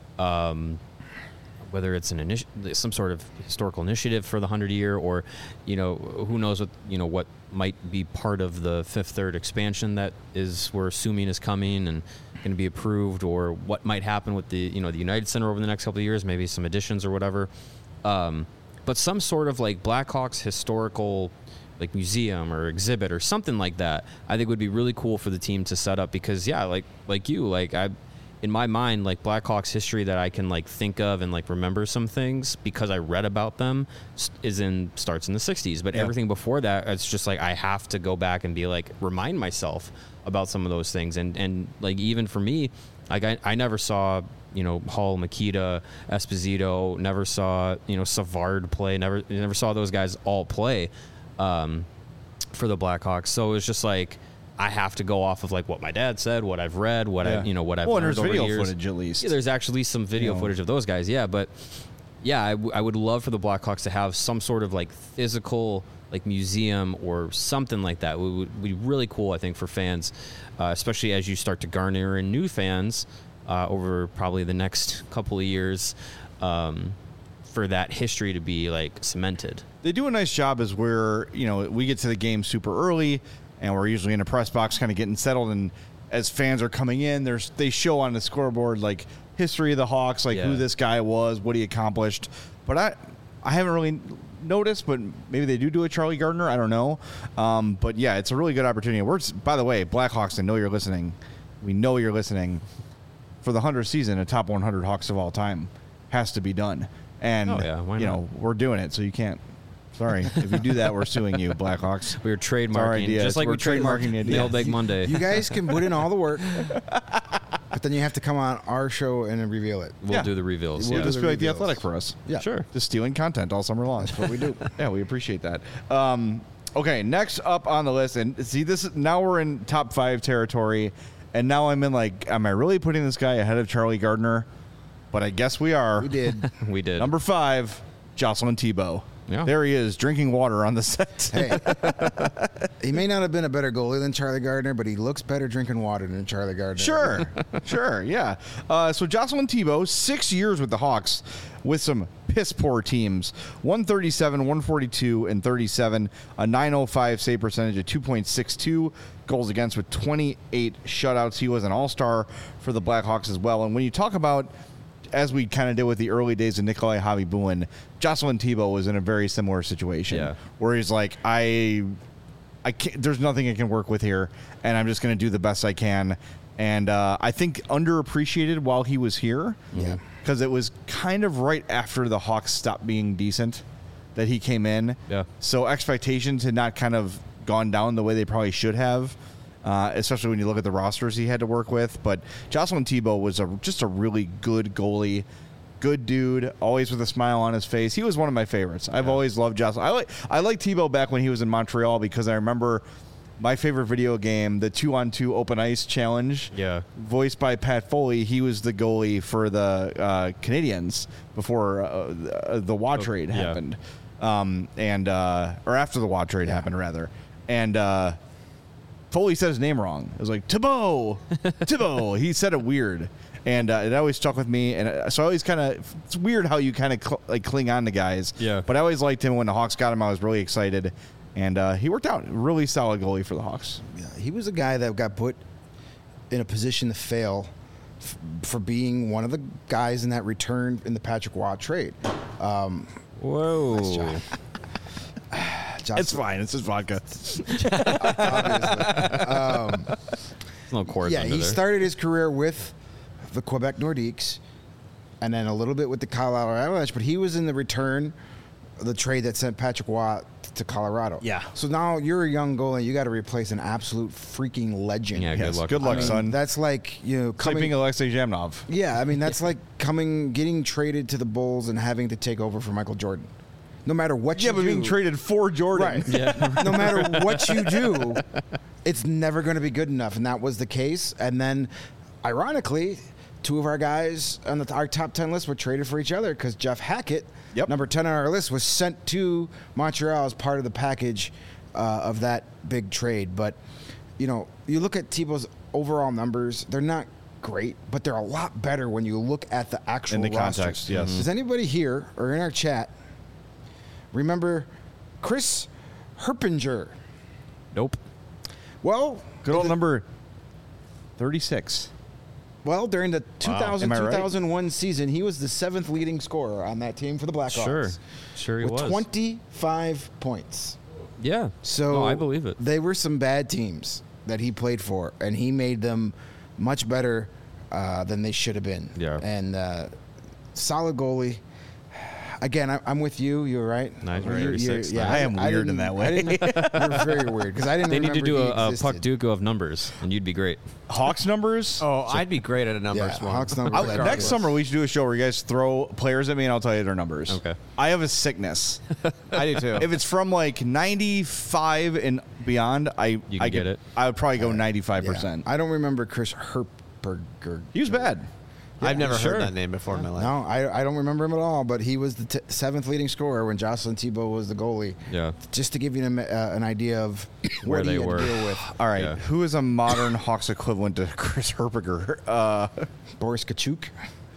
Whether it's some sort of historical initiative for the 100 year, or who knows what might be part of the Fifth Third expansion that we're assuming is coming and going to be approved, or what might happen with the the United Center over the next couple of years, maybe some additions or whatever. But some sort of like Blackhawks historical like museum or exhibit or something like that, I think would be really cool for the team to set up, because in my mind, like Blackhawks history that I can like think of and like remember some things because I read about them starts in the 60s. But everything before that, it's just like I have to go back and be like, remind myself about some of those things. And like, even for me, like I never saw, Hull, Mikita, Esposito, never saw, Savard play, never saw those guys all play for the Blackhawks. So it was just like, I have to go off of like what my dad said, what I've read, what I've learned over the years. Video footage at least. Yeah, there's actually some video footage of those guys. Yeah, but I would love for the Blackhawks to have some sort of like physical like museum or something like that. It would be really cool, I think, for fans, especially as you start to garner in new fans over probably the next couple of years, for that history to be like cemented. They do a nice job as we're, we get to the game super early, and we're usually in a press box kind of getting settled, and as fans are coming in, they show on the scoreboard like history of the Hawks, like who this guy was, what he accomplished. But I haven't really noticed, but maybe they do a Charlie Gardner. I don't know. But yeah, it's a really good opportunity. By the way, Blackhawks, I know you're listening. We know you're listening. For the 100th season, a top 100 Hawks of all time has to be done. And, why not? We're doing it, so you can't. Sorry. If you do that, we're suing you, Blackhawks. We're trademarking, just like we're trademarking the Mailbag Monday. You guys can put in all the work, but then you have to come on our show and reveal it. We'll do the reveals. We'll just do be the like The reveals. Athletic for us. Yeah. Sure. Just stealing content all summer long. That's what we do. Yeah, we appreciate that. Okay, next up on the list, and see, now we're in top 5 territory, and now I'm in like, am I really putting this guy ahead of Charlie Gardner? But I guess we are. We did. We did. Number 5, Jocelyn Thibault. Yeah. There he is, drinking water on the set. Hey, he may not have been a better goalie than Charlie Gardner, but he looks better drinking water than Charlie Gardner. Sure, yeah. So Jocelyn Thibault, 6 years with the Hawks with some piss poor teams. 137, 142, and 37. A 905 save percentage, a 2.62 goals against with 28 shutouts. He was an all-star for the Blackhawks as well. And when you talk about, as we kind of did with the early days of Nikolai Javi-Buin, Jocelyn Thibault was in a very similar situation where he's like, I can't, there's nothing I can work with here, and I'm just going to do the best I can. And I think underappreciated while he was here. Yeah. Because it was kind of right after the Hawks stopped being decent that he came in. Yeah. So expectations had not kind of gone down the way they probably should have, especially when you look at the rosters he had to work with. But Jocelyn Thibault was just a really good goalie, good dude, always with a smile on his face. He was one of my favorites. I've always loved Jocelyn. I liked Thibault back when he was in Montreal because I remember my favorite video game, the 2-on-2 Open Ice Challenge, voiced by Pat Foley. He was the goalie for the Canadiens before the Watt trade happened, or after the Watt trade happened, rather. And Foley said his name wrong. It was like Thibault. He said it weird, and it always stuck with me. And so I always kind of, it's weird how you kind of cling on to guys. Yeah. But I always liked him. When the Hawks got him, I was really excited. And he worked out. Really solid goalie for the Hawks. Yeah, he was a guy that got put in a position to fail for being one of the guys in that return in the Patrick Waugh trade. Whoa. Nice job. It's fine. It's just vodka. There's no chords Yeah, under he there. started his career with the Quebec Nordiques and then a little bit with the Colorado Avalanche, but he was in the return, the trade that sent Patrick Waugh to Colorado. Yeah. So now you're a young goalie, you got to replace an absolute freaking legend. Yeah, Yes, good luck. good luck, I mean, son. That's like, It's like being Alexei Zhamnov. Yeah, I mean, that's like getting traded to the Bulls and having to take over for Michael Jordan. No matter what you Yeah, do. but being traded for Jordan. Right. No matter what you do, it's never going to be good enough. And that was the case. And then, ironically, two of our guys on our top 10 list were traded for each other because Jeff Hackett, number 10 on our list, was sent to Montreal as part of the package of that big trade. But, you look at Thibault's overall numbers, they're not great, but they're a lot better when you look at the actual In the roster. context, yes. Does anybody here or in our chat remember Chris Herpinger? Nope. Well, Good old number 36. Well, during the Am I right? 2001 season, he was the 7th leading scorer on that team for the Blackhawks. Sure he with was. 25 points. Yeah. So no, I believe it. They were some bad teams that he played for, and he made them much better than they should have been. Yeah. And solid goalie. Again, I'm with you. You're right. Nice. You're- 36. yeah, I am weird in didn't- that way. I didn't, you're very weird because I didn't. They need to remember do he a existed. Puck Duca of numbers, and you'd be great. Hawks numbers. Oh, I'd be great at a numbers Yeah, one. Hawks numbers. Next summer we should do a show where you guys throw players at me and I'll tell you their numbers. Okay. I have a sickness. I do too. If it's from like 95 and beyond, You can get it. I would probably go Yeah. 95%. I don't remember Chris Herperger. He was bad. I've never sure. heard that name before in my life. No, I don't remember him at all. But he was the 7th leading scorer when Jocelyn Thibault was the goalie. Yeah. Just to give you an idea of Where what he they had were. to deal with. All right. Yeah. Who is a modern Hawks equivalent to Chris Herperger? Boris Kachuk.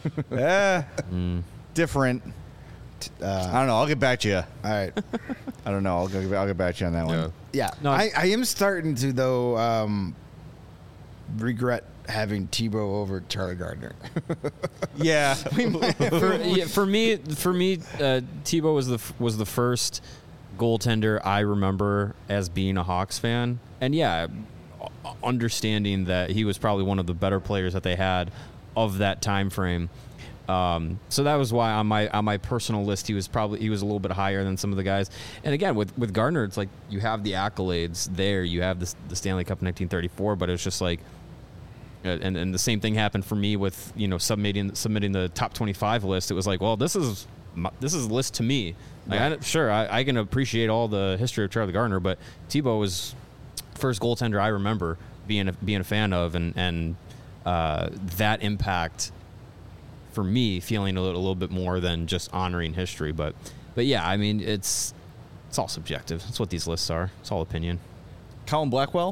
Different. I don't know. I'll get back to you. All right. I don't know. I'll get back to you on that one. Yeah. No, I am starting to, though, regret having Thibault over Charlie Gardner. Yeah. For me, Thibault was the first goaltender I remember as being a Hawks fan, and understanding that he was probably one of the better players that they had of that time frame. So that was why on my personal list he was a little bit higher than some of the guys. And again, with Gardner, it's like you have the accolades there, you have the Stanley Cup in 1934, but it was just like. And the same thing happened for me with submitting the top 25 list. It was like, well, this is a list to me. Like, I can appreciate all the history of Charlie Gardner, but Thibault was first goaltender I remember being a fan of, and that impact for me feeling a little bit more than just honoring history. But But yeah, I mean, it's all subjective. That's what these lists are. It's all opinion. Colin Blackwell?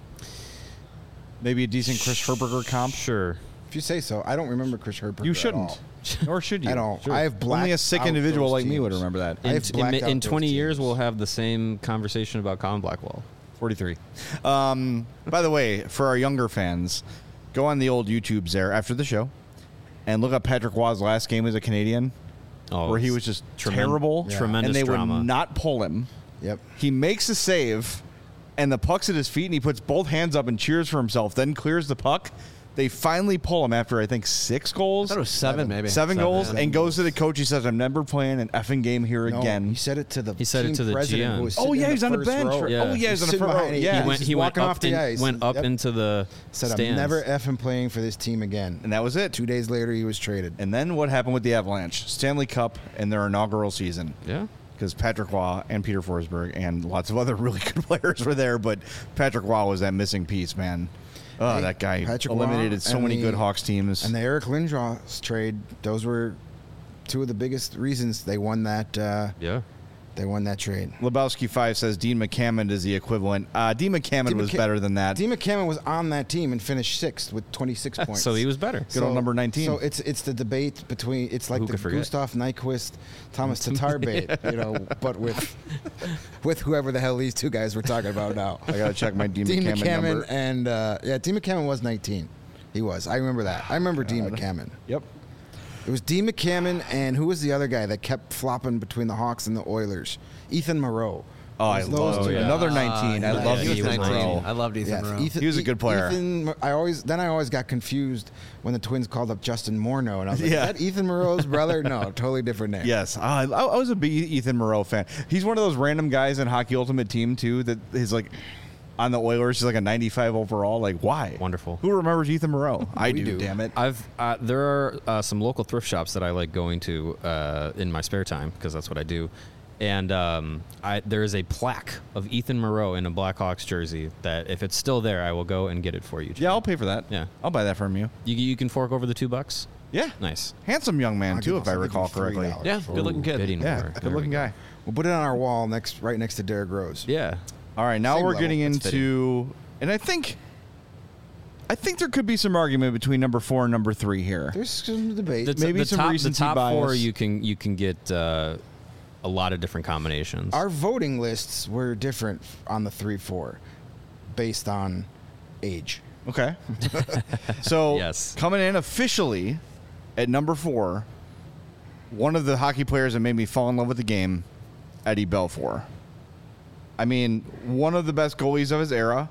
Maybe a decent Chris Herberger comp? Sure. If you say so, I don't remember Chris Herberger. You at shouldn't. all. Nor should you. I don't. Sure. I have blacked Only a sick out individual those like me would teams. remember that. I have blacked out In those 20 years, teams. we'll have the same conversation about Colin Blackwell. 43. By the way, for our younger fans, go on the old YouTubes there after the show and look up Patrick Waugh's last game as a Canadian, where he was just terrible. Yeah. Tremendous and they drama. would not pull him. Yep. He makes a save, and the puck's at his feet, and he puts both hands up and cheers for himself, then clears the puck. They finally pull him after, I think, 6 goals. I thought it was 7 maybe. 7 goals, yeah. and goes to the coach. He says, I'm never playing an effing game here No, again. he said it to the He said it team to the president GM. who was Oh, sitting yeah, in he's on the first bench. row. Yeah. Oh, yeah, he's on the Sitting front row. behind it. Yeah. He went, just he went walking up off the in- ice. went up Yep. into the Said, stands. I'm never effing playing for this team again. And that was it. 2 days later, he was traded. And then what happened with the Avalanche? Stanley Cup in their inaugural season. Yeah. Because Patrick Waugh and Peter Forsberg and lots of other really good players were there, but Patrick Waugh was that missing piece, man. Oh, Hey, that guy Patrick eliminated Waugh so and many the- good Hawks teams. And the Eric Lindros trade, those were 2 of the biggest reasons they won that. Yeah. They won that trade. Lebowski 5 says Dean McCammond is the equivalent. Dean McCammond Dean was McCa- better than that. Dean McCammond was on that team and finished 6th with 26 points. So he was better. Good old number 19. So it's the debate between like Who the could forget? Gustav Nyquist, Thomas Tatar bait, but with whoever the hell these 2 guys we're talking about now. I got to check my Dean, Dean McCammond, McCammond number. and Dean McCammond was 19. He was. I remember that. I remember Dean McCammond. Yep. It was Dean McCammond and who was the other guy that kept flopping between the Hawks and the Oilers? Ethan Moreau. Oh, I It was those love two. yeah. another 19. I Yeah, love he was Ethan 19. Moreau. I loved Ethan Moreau. Ethan, He was a good player. I always got confused when the Twins called up Justin Morneau, and I was like, Yeah. "Is that Ethan Moreau's brother?" No, totally different name. Yes, I was a big Ethan Moreau fan. He's one of those random guys in Hockey Ultimate Team too that is like on the Oilers. He's like a 95 overall. Like, why? Wonderful. Who remembers Ethan Moreau? I do. do. Damn it. There are some local thrift shops that I like going to in my spare time because that's what I do. And there is a plaque of Ethan Moreau in a Blackhawks jersey that if it's still there, I will go and get it for you. Yeah, I'll pay for that. Yeah. I'll buy that from you. You can fork over the $2. Yeah. Nice. Handsome young man I'll too, give- if I I'll give recall you correctly. $3. Yeah, good looking kid. Bidding Yeah, war. good There we looking go. guy. We'll put it on our wall right next to Derrick Rose. Yeah. All right, now Same we're level. getting That's into, and I think there could be some argument between number 4 and number 3 here. There's some debate. Maybe some the recency top bias. 4 you can get a lot of different combinations. Our voting lists were different on the 3-4, based on age. Okay. So Yes. coming in officially at number 4, one of the hockey players that made me fall in love with the game, Eddie Belfour. I mean, one of the best goalies of his era.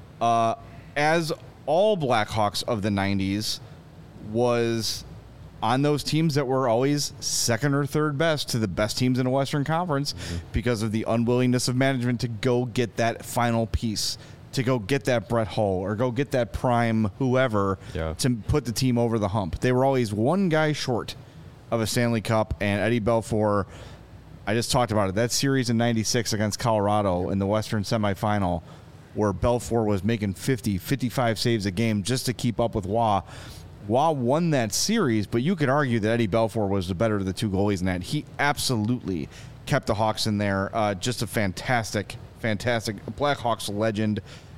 As all Blackhawks of the 90s was on those teams that were always second or third best to the best teams in the Western Conference because of the unwillingness of management to go get that final piece, to go get that Brett Hull or go get that prime whoever Yeah. to put the team over the hump. They were always one guy short of a Stanley Cup, and Eddie Belfour, I just talked about it, that series in 96 against Colorado in the Western semifinal where Belfour was making 50, 55 saves a game just to keep up with Waugh. Waugh won that series, but you could argue that Eddie Belfour was the better of the 2 goalies in that. He absolutely kept the Hawks in there. Just a fantastic Blackhawks legend.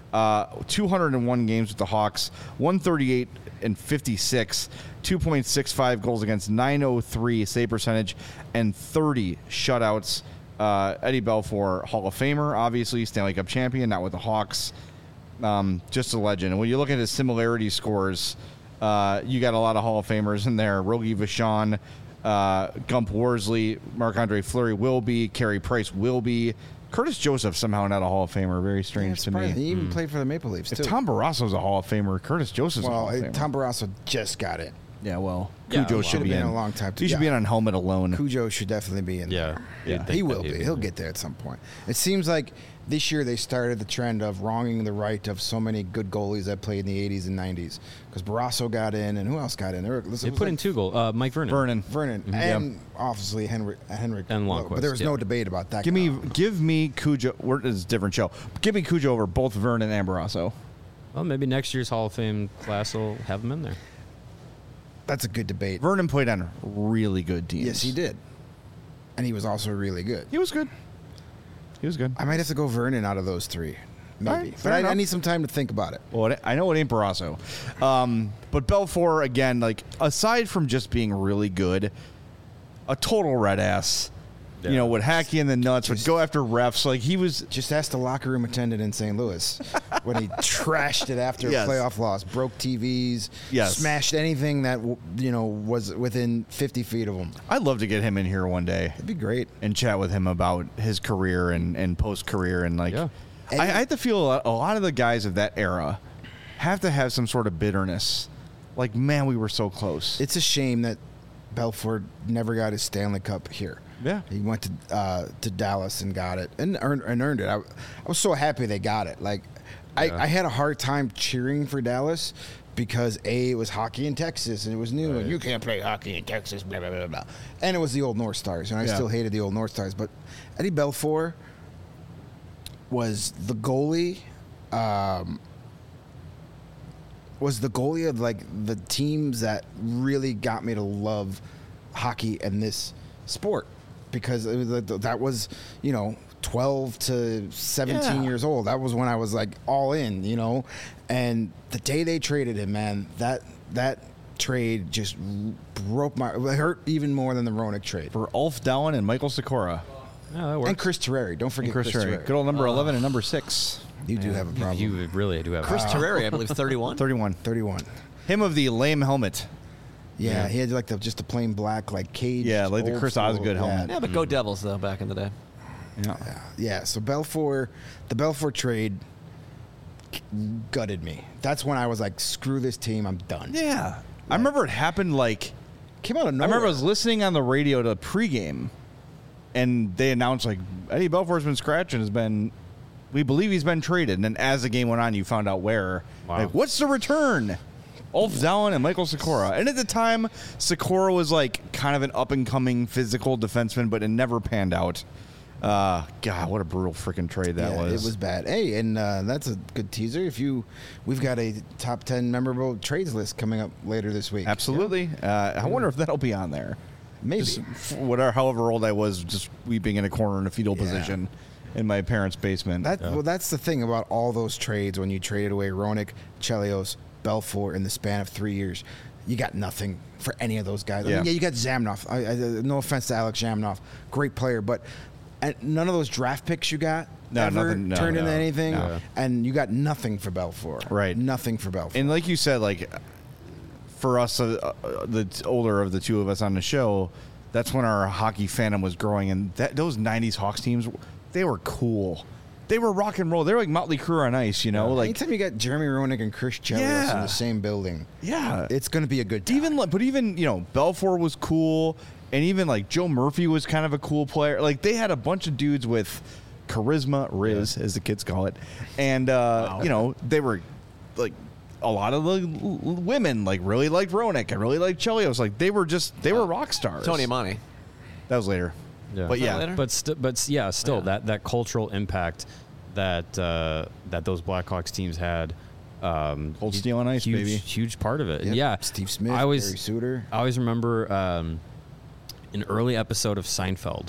201 games with the Hawks, 138 and 56, 2.65 goals against, 903 save percentage, and 30 shutouts. Eddie Belfour, Hall of Famer, obviously, Stanley Cup champion, not with the Hawks. Just a legend. And when you look at his similarity scores, you got a lot of Hall of Famers in there. Rogie Vachon, Gump Worsley, Marc-Andre Fleury will be, Carey Price will be. Curtis Joseph somehow not a Hall of Famer. Very strange to me. He even played for the Maple Leafs, If too. Tom Barrasso's a Hall of Famer, Curtis Joseph's a Hall of Famer. Tom Barrasso just got it. Yeah, well, Yeah, Cujo well, should should've be been in a long time He should be yeah. on helmet alone. Cujo should definitely be in Yeah. there. You'd think He that will he'd be. be He'll in get there at some point. It seems like this year they started the trend of wronging the right of so many good goalies that played in the 80s and 90s. Because Barrasso got in, and who else got in? They put in 2 goals. Mike Vernon. Vernon. Vernon, and obviously Henrik. And Lowe. Lundqvist, But there was yeah. no debate about that. Give guy. me Cujo. It's a different show. Give me Cujo over both Vernon and Barrasso. Well, maybe next year's Hall of Fame class will have him in there. That's a good debate. Vernon played on really good teams. Yes, he did. and he was also really good. He was good. He was good. I might have to go Vernon out of those three, maybe. All right, But fair I enough. need some time to think about it. Well, I know it ain't Barrasso. But Belfour, again, like, aside from just being really good, a total red ass. Yeah. You know, would hack you in the nuts, would go after refs. Like, he was... Just ask the locker room attendant in St. Louis when he trashed it after Yes. a playoff loss, broke TVs, Yes. smashed anything that was within 50 feet of him. I'd love to get him in here one day It'd be great. and chat with him about his career and post-career. And, like, Yeah. I have to feel a lot of the guys of that era have to have some sort of bitterness. Like, man, we were so close. It's a shame that Belfort never got his Stanley Cup here. Yeah. He went to Dallas and got it and earned it. I was so happy they got it. Like, Yeah. I had a hard time cheering for Dallas because it was hockey in Texas and it was new and you can't play hockey in Texas, blah blah blah blah. And it was the old North Stars, and I Yeah. still hated the old North Stars. But Eddie Belfour was the goalie. Was the goalie of like the teams that really got me to love hockey and this sport, because it was that was 12 to 17 Yeah. years old. That was when I was like all in, and the day they traded him, man, that trade just broke my, it hurt even more than the Roenick trade. For Ulf Dowen and Michael Sikora. Yeah, that works. And Chris Terreri, don't forget Chris Terry. Terreri. Good old number 11 and number 6. You do have a problem. You really do have. Chris Terreri, I believe, 31. 31. 31. Him of the lame helmet. Yeah, he had like just the plain black like cage. Yeah, like the old Chris school. Osgood helmet. Yeah, but go Devils, though, back in the day. Yeah. Yeah, so the Belfour trade gutted me. That's when I was like, screw this team, I'm done. Yeah. I remember it happened like, Came out of I nowhere. remember I was listening on the radio to pregame, and they announced like Eddie Belfour's been scratched and we believe he's been traded. And then as the game went on, you found out where. Wow. Like, what's the return? Ulf Dowen and Michael Sikora. And at the time, Sikora was like kind of an up and coming physical defenseman, but it never panned out. God, what a brutal freaking trade that was. It was bad. Hey, and that's a good teaser. We've got a top 10 memorable trades list coming up later this week. Absolutely. I wonder if that'll be on there. Maybe. Just whatever, however old I was, just weeping in a corner in a fetal position in my parents' basement. Well, that's the thing about all those trades. When you traded away Roenick, Chelios, Belfour in the span of 3 years, you got nothing for any of those guys. Yeah. I mean, you got Zamnov. No offense to Alex Zamnov, great player, but none of those draft picks you got turned into anything, no. and you got nothing for Belfour. Right. Nothing for Belfour. And like you said, like for us, the older of the two of us on the show, that's when our hockey fandom was growing, and those '90s Hawks teams, they were cool. They were rock and roll. They were like Motley Crue on ice, Like, anytime you got Jeremy Roenick and Chris Chelios in the same building, it's going to be a good time. Even Belfour was cool, and even like Joe Murphy was kind of a cool player. Like they had a bunch of dudes with charisma, Riz as the kids call it, and they were like a lot of the women like really liked Roenick and really liked Chelios. Like they were rock stars. Tony Amani. That was later. Yeah. But yeah, later? Still that cultural impact that those Blackhawks teams had. Cold Steel on Ice, huge, baby. Huge part of it. Yep. And yeah, Steve Smith, Barry Suter. I always remember an early episode of Seinfeld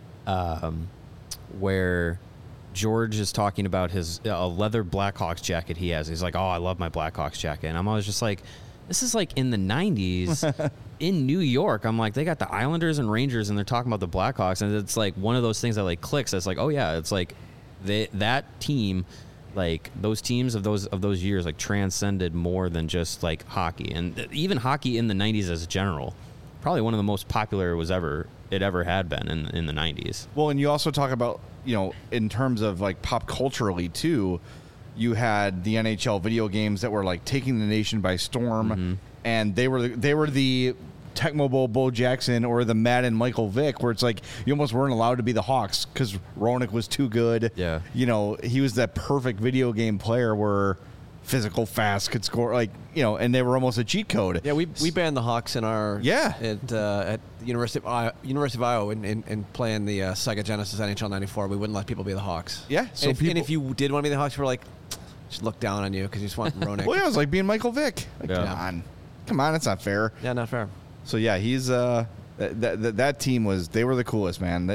where George is talking about his a leather Blackhawks jacket he has. He's like, "Oh, I love my Blackhawks jacket," and I'm always just like, "This is like in the '90s." In New York, I'm like, they got the Islanders and Rangers, and they're talking about the Blackhawks, and it's like one of those things that like clicks. It's like, oh yeah, it's like that team, like those teams of those years, like transcended more than just like hockey, and even hockey in the '90s as a general, probably one of the most popular it ever had been in the '90s. Well, and you also talk about in terms of like pop culturally too. You had the NHL video games that were like taking the nation by storm, and they were the Tecmo Bowl Bo Jackson or the Madden Michael Vick, where it's like you almost weren't allowed to be the Hawks because Roenick was too good. Yeah, he was that perfect video game player where physical, fast, could score and they were almost a cheat code. Yeah, we banned the Hawks in our at the University of Iowa in playing the Sega Genesis NHL '94. We wouldn't let people be the Hawks. Yeah, so and if you did want to be the Hawks, we were like, just look down on you because you just want Roenick. Well, yeah, it was like being Michael Vick. Like, Yeah. come on, that's not fair. Yeah, not fair. So yeah, he's That team they were the coolest, man.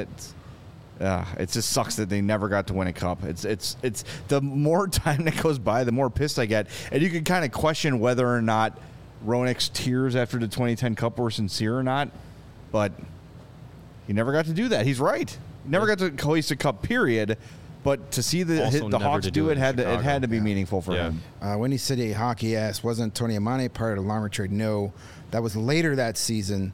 It just sucks that they never got to win a cup. It's the more time that goes by, the more pissed I get, and you can kind of question whether or not Roenick's tears after the 2010 Cup were sincere or not. But he never got to do that. He's right. He never got to hoist a cup. Period. But to see the Hawks do it had to be meaningful for him. Windy City Hockey asked, wasn't Tony Amane part of the Larmer trade? No, that was later that season.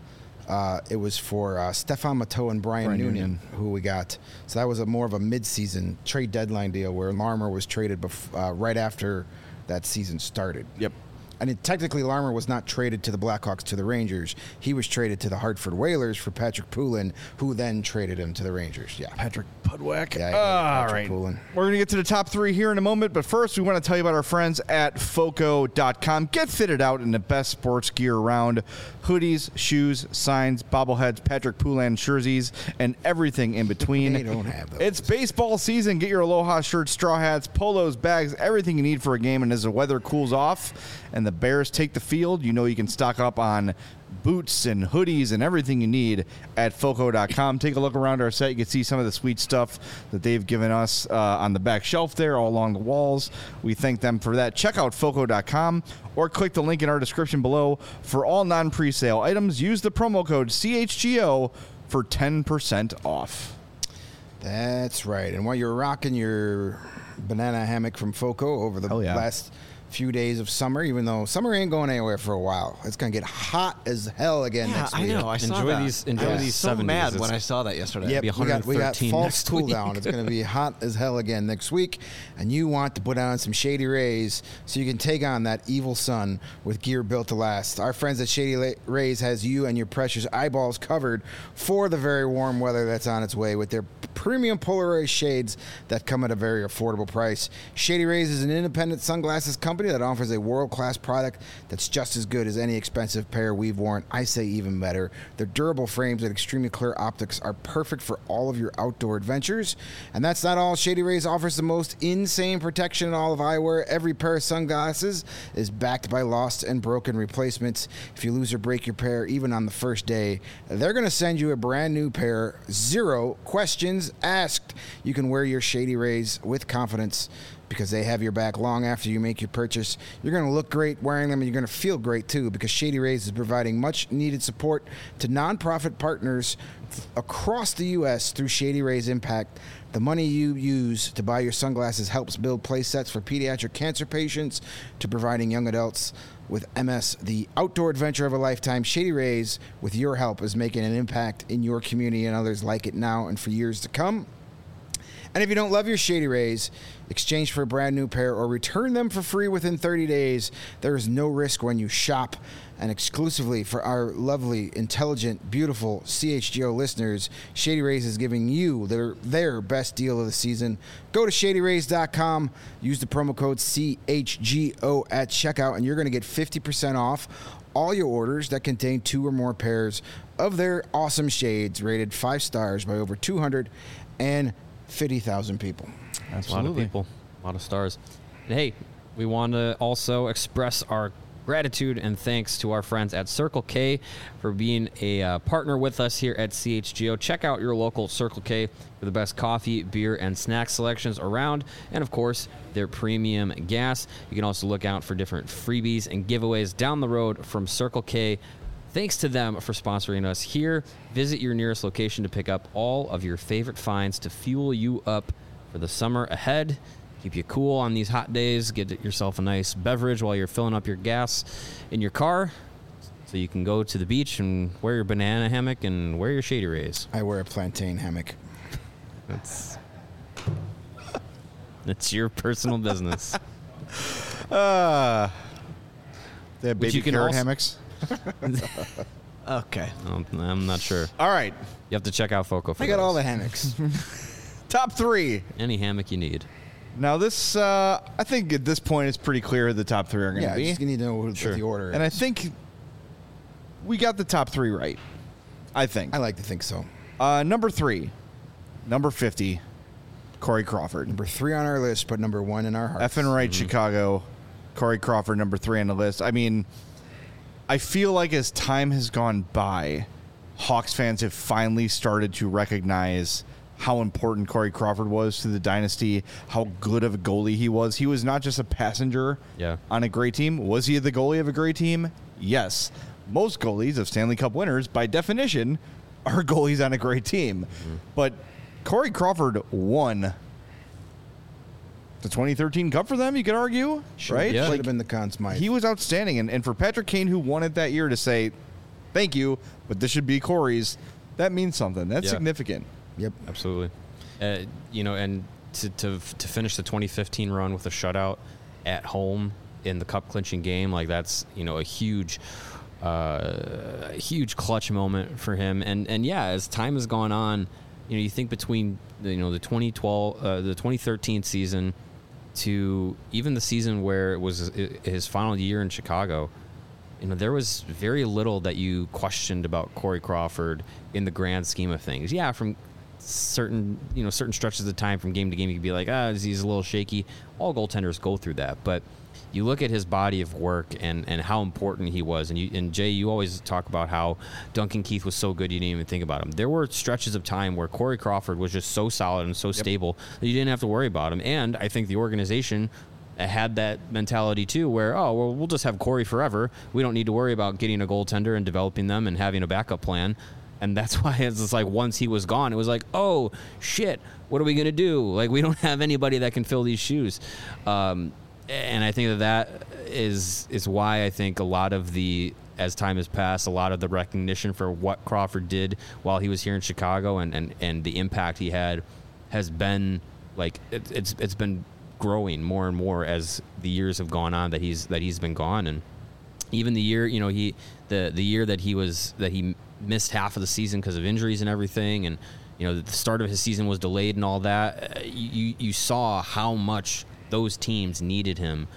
It was for Stefan Matteau and Brian Noonan, who we got. So that was more of a mid-season trade deadline deal where Larmer was traded right after that season started. Yep. And technically, Larmer was not traded to the Blackhawks to the Rangers. He was traded to the Hartford Whalers for Patrick Poulin, who then traded him to the Rangers. Yeah, Patrick Pudwick. Yeah, all right. Poulin. We're going to get to the top 3 here in a moment, but first we want to tell you about our friends at Foco.com. Get fitted out in the best sports gear around. Hoodies, shoes, signs, bobbleheads, Patrick Poulin jerseys, and everything in between. They don't have those. It's baseball season. Get your Aloha shirts, straw hats, polos, bags, everything you need for a game. And as the weather cools off and the Bears take the field, you know you can stock up on boots and hoodies and everything you need at Foco.com. Take a look around our site. You can see some of the sweet stuff that they've given us on the back shelf there, all along the walls. We thank them for that. Check out Foco.com or click the link in our description below for all non-presale items. Use the promo code CHGO for 10% off. That's right. And while you're rocking your banana hammock from Foco over the last few days of summer, even though summer ain't going anywhere for a while. It's going to get hot as hell again next week. I know. I saw that. Enjoy these so 70s. mad when I saw that yesterday. Yep, It'll be 113 we got false next cool week. down. It's going to be hot as hell again next week, and you want to put on some Shady Rays so you can take on that evil sun with gear built to last. Our friends at Shady Rays has you and your precious eyeballs covered for the very warm weather that's on its way with their premium polarized shades that come at a very affordable price. Shady Rays is an independent sunglasses company that offers a world-class product that's just as good as any expensive pair we've worn. I say even better. Their durable frames and extremely clear optics are perfect for all of your outdoor adventures. And that's not all. Shady Rays offers the most insane protection in all of eyewear. Every pair of sunglasses is backed by lost and broken replacements. If you lose or break your pair, even on the first day, they're going to send you a brand new pair. 0 questions asked. You can wear your Shady Rays with confidence because they have your back long after you make your purchase. You're going to look great wearing them, and you're going to feel great too, because Shady Rays is providing much needed support to nonprofit partners across the U.S. through Shady Rays Impact. The money you use to buy your sunglasses helps build play sets for pediatric cancer patients to providing young adults with MS the outdoor adventure of a lifetime. Shady Rays, with your help, is making an impact in your community and others like it now and for years to come. And if you don't love your Shady Rays, exchange for a brand new pair or return them for free within 30 days. There is no risk when you shop. And exclusively for our lovely, intelligent, beautiful CHGO listeners, Shady Rays is giving you their best deal of the season. Go to ShadyRays.com, use the promo code CHGO at checkout, and you're going to get 50% off all your orders that contain 2 or more pairs of their awesome shades, rated 5 stars by over 250,000 people. That's a lot of people, a lot of stars. And hey, we want to also express our gratitude and thanks to our friends at Circle K for being a partner with us here at CHGO. Check out your local Circle K for the best coffee, beer, and snack selections around, and of course, their premium gas. You can also look out for different freebies and giveaways down the road from Circle K. Thanks to them for sponsoring us here. Visit your nearest location to pick up all of your favorite finds to fuel you up for the summer ahead. Keep you cool on these hot days. Get yourself a nice beverage while you're filling up your gas in your car so you can go to the beach and wear your banana hammock and wear your Shady Rays. I wear a plantain hammock. That's your personal business. They have baby you can carrot also- hammocks. Okay. I'm not sure. All right. You have to check out Foco for I got those. all the hammocks. Top 3. Any hammock you need. Now, this, I think at this point, it's pretty clear who the top 3 are going to Yeah, be. just need to know what the order is. And I think we got the top 3 right. I think. I like to think so. Number 3, number 50, Corey Crawford. Number 3 on our list, but number 1 in our hearts. Effing right, Chicago. Corey Crawford, number 3 on the list. I mean, I feel like as time has gone by, Hawks fans have finally started to recognize how important Corey Crawford was to the dynasty, how good of a goalie he was. He was not just a passenger on a great team. Was he the goalie of a great team? Yes. Most goalies of Stanley Cup winners, by definition, are goalies on a great team. But Corey Crawford won the 2013 Cup for them, you could argue, right? Yeah. Should have been the Conn Smythe. He was outstanding. And for Patrick Kane, who won it that year, to say, thank you, but this should be Corey's, that means something. That's significant. Yep. Absolutely. And to finish the 2015 run with a shutout at home in the cup clinching game, like that's, a huge clutch moment for him. And as time has gone on, you think between the 2013 season to even the season where it was his final year in Chicago, there was very little that you questioned about Corey Crawford in the grand scheme of things. Yeah, from certain stretches of time from game to game, you could be like, he's a little shaky. All goaltenders go through that, but you look at his body of work and how important he was. And Jay, you always talk about how Duncan Keith was so good you didn't even think about him. There were stretches of time where Corey Crawford was just so solid and so stable that you didn't have to worry about him. And I think the organization had that mentality too, where we'll just have Corey forever. We don't need to worry about getting a goaltender and developing them and having a backup plan. And that's why it's just like once he was gone, it was like, oh shit, what are we gonna do? Like, we don't have anybody that can fill these shoes. And I think that is why I think a lot of as time has passed, a lot of the recognition for what Crawford did while he was here in Chicago and the impact he had has been like it's been growing more and more as the years have gone on that he's been gone. And even the year, the year that he missed half of the season because of injuries and everything, and the start of his season was delayed and all that, you saw how much those teams needed him,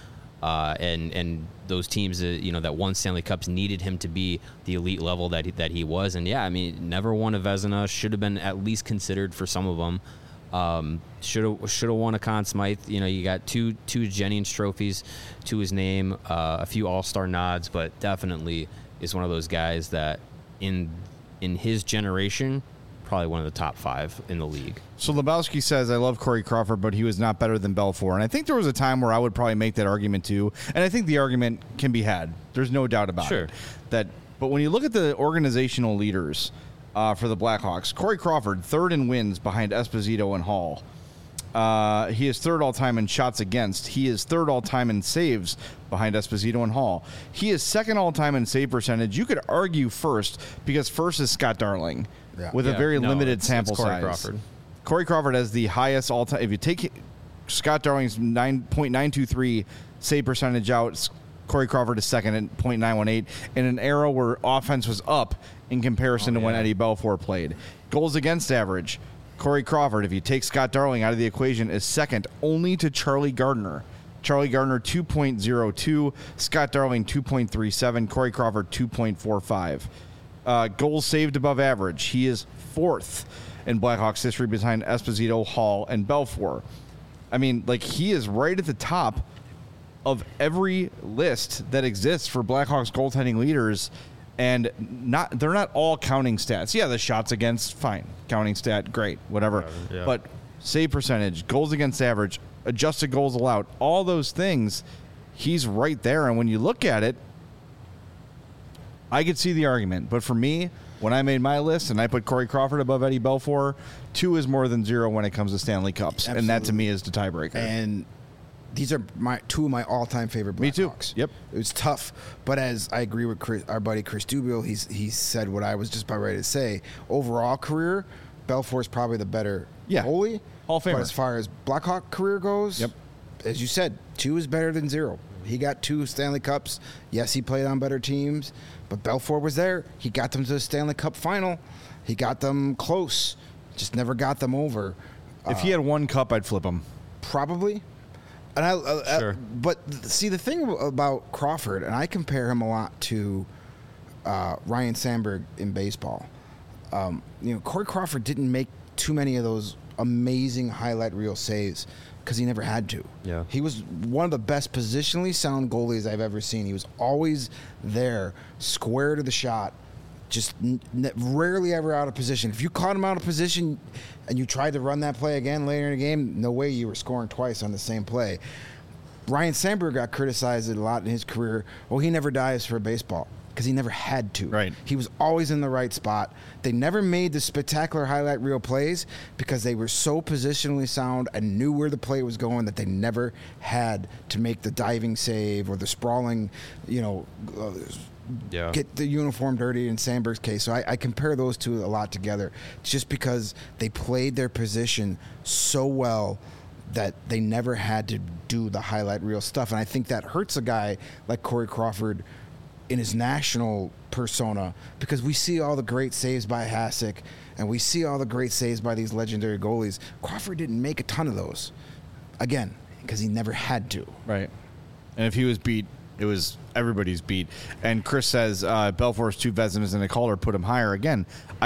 and those teams that won Stanley Cups needed him to be the elite level that he was. And never won a Vezina, should have been at least considered for some of them. Should have won a Conn Smythe. You got two Jennings trophies to his name, a few All-Star nods, but definitely is one of those guys that in his generation, probably one of the top 5 in the league. So Lebowski says, I love Corey Crawford, but he was not better than Belfour. And I think there was a time where I would probably make that argument too. And I think the argument can be had. There's no doubt about it. But when you look at the organizational leaders for the Blackhawks, Corey Crawford, third in wins behind Esposito and Hall. He is third all-time in shots against. He is third all-time in saves behind Esposito and Hall. He is second all-time in save percentage. You could argue first, because first is Scott Darling with a very limited sample size. Crawford. Corey Crawford has the highest all-time. If you take Scott Darling's 9.923 save percentage out, Corey Crawford is second at .918 in an era where offense was up in comparison to when Eddie Belfour played. Goals against average, Corey Crawford, if you take Scott Darling out of the equation, is second only to Charlie Gardner. Charlie Gardner 2.02, Scott Darling 2.37, Corey Crawford 2.45. Goals saved above average, he is fourth in Blackhawks history behind Esposito, Hall, and Belfour. I mean, he is right at the top of every list that exists for Blackhawks goaltending leaders, and they're not all counting stats. Yeah, the shots against, fine. Counting stat, great, whatever. Yeah. But save percentage, goals against average, adjusted goals allowed, all those things, he's right there. And when you look at it, I could see the argument. But for me, when I made my list and I put Corey Crawford above Eddie Belfour, 2 is more than 0 when it comes to Stanley Cups. Absolutely. And that to me is the tiebreaker. And these are two of my all-time favorite Blackhawks. Me too. Yep. It was tough, but as I agree with our buddy Chris Dubiel, he said what I was just about ready to say. Overall career, Belfour's probably the better goalie. Hall of Famer. But as far as Blackhawk career goes, as you said, 2 is better than 0. He got 2 Stanley Cups. Yes, he played on better teams, but Belfour was there. He got them to the Stanley Cup final. He got them close, just never got them over. If he had 1 cup, I'd flip him. Probably. And Sure. But see, the thing about Crawford, and I compare him a lot to Ryan Sandberg in baseball. Corey Crawford didn't make too many of those amazing highlight reel saves because he never had to. Yeah. He was one of the best positionally sound goalies I've ever seen. He was always there, square to the shot, just rarely ever out of position. If you caught him out of position and you tried to run that play again later in the game, no way you were scoring twice on the same play. Ryan Sandberg got criticized a lot in his career. Well, he never dives for a baseball because he never had to. Right. He was always in the right spot. They never made the spectacular highlight reel plays because they were so positionally sound and knew where the play was going that they never had to make the diving save or the sprawling, get the uniform dirty in Sandberg's case. So I compare those two a lot together just because they played their position so well that they never had to do the highlight reel stuff. And I think that hurts a guy like Corey Crawford in his national persona because we see all the great saves by Hasek and we see all the great saves by these legendary goalies. Crawford didn't make a ton of those, again, because he never had to. Right. And if he was beat, it was everybody's beat. And Chris says Belfour's 2 Vezinas and a Calder put him higher. Again,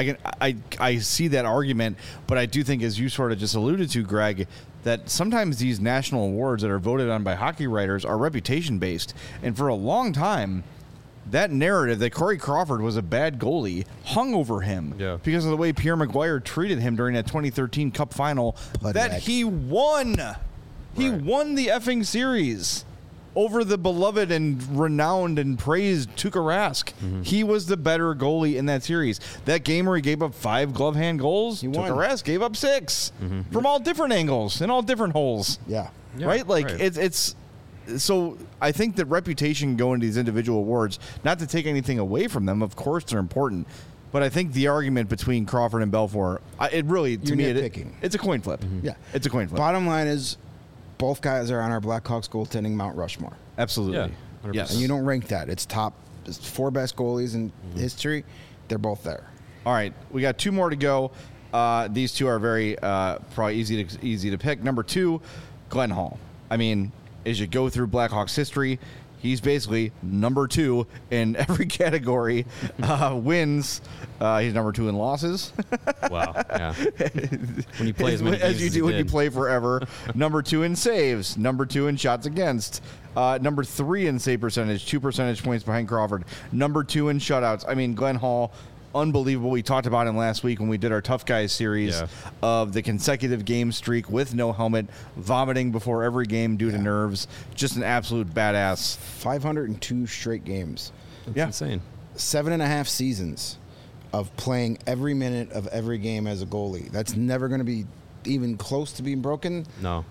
I see that argument, but I do think, as you sort of just alluded to, Greg, that sometimes these national awards that are voted on by hockey writers are reputation-based. And for a long time, that narrative that Corey Crawford was a bad goalie hung over him because of the way Pierre Maguire treated him during that 2013 Cup final he won. He won the effing series over the beloved and renowned and praised Tuukka Rask. Mm-hmm. He was the better goalie in that series. That game where he gave up 5 glove hand goals, Tuukka Rask gave up 6 from all different angles and all different holes. Yeah. Right? Like, it's so I think that reputation can go into these individual awards, not to take anything away from them. Of course, they're important. But I think the argument between Crawford and Belfour, it really, to me, it's a coin flip. Mm-hmm. Yeah. It's a coin flip. Bottom line is, both guys are on our Blackhawks goaltending Mount Rushmore. Absolutely. Yeah, yes. And you don't rank that. It's 4 best goalies in history. They're both there. All right. We got 2 more to go. These 2 are very probably easy to pick. Number 2, Glenn Hall. I mean, as you go through Blackhawks history, he's basically number 2 in every category. Wins. He's number 2 in losses. Wow. Yeah. When you play as many as you do when you play forever. Number 2 in saves. Number 2 in shots against. Number 3 in save percentage. 2 percentage points behind Crawford. Number 2 in shutouts. I mean, Glenn Hall, unbelievable. We talked about him last week when we did our Tough Guys series of the consecutive game streak with no helmet, vomiting before every game due to nerves. Just an absolute badass. 502 straight games. That's insane. 7.5 seasons of playing every minute of every game as a goalie. That's never going to be even close to being broken. No.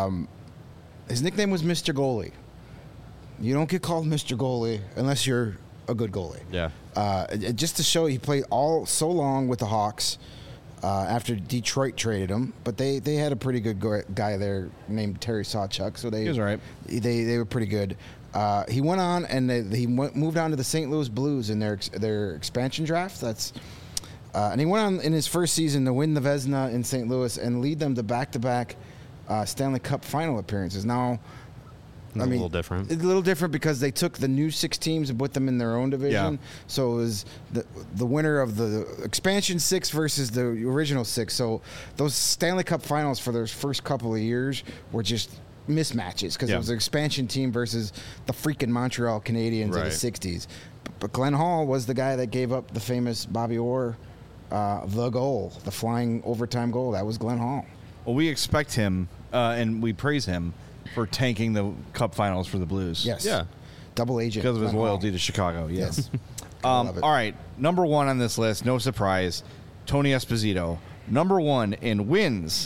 His nickname was Mr. Goalie. You don't get called Mr. Goalie unless you're a good goalie. Yeah. Just to show, he played so long with the Hawks after Detroit traded him, but they had a pretty good guy there named Terry Sawchuk, so he was all right. They were pretty good. He went on and he moved on to the St. Louis Blues in their expansion draft. And he went on in his first season to win the Vezina in St. Louis and lead them to back-to-back Stanley Cup final appearances. Now, a little different. It's a little different because they took the new 6 teams and put them in their own division. Yeah. So it was the winner of the expansion 6 versus the original 6. So those Stanley Cup finals for those first couple of years were just mismatches because it was an expansion team versus the freaking Montreal Canadiens of the 60s. But Glenn Hall was the guy that gave up the famous Bobby Orr, the goal, the flying overtime goal. That was Glenn Hall. Well, we expect him and we praise him for tanking the Cup Finals for the Blues. Yes. Yeah. Double agent. Because of his Glenn loyalty Hall. to Chicago. Yes. All right. Number 1 on this list, no surprise, Tony Esposito. Number 1 in wins.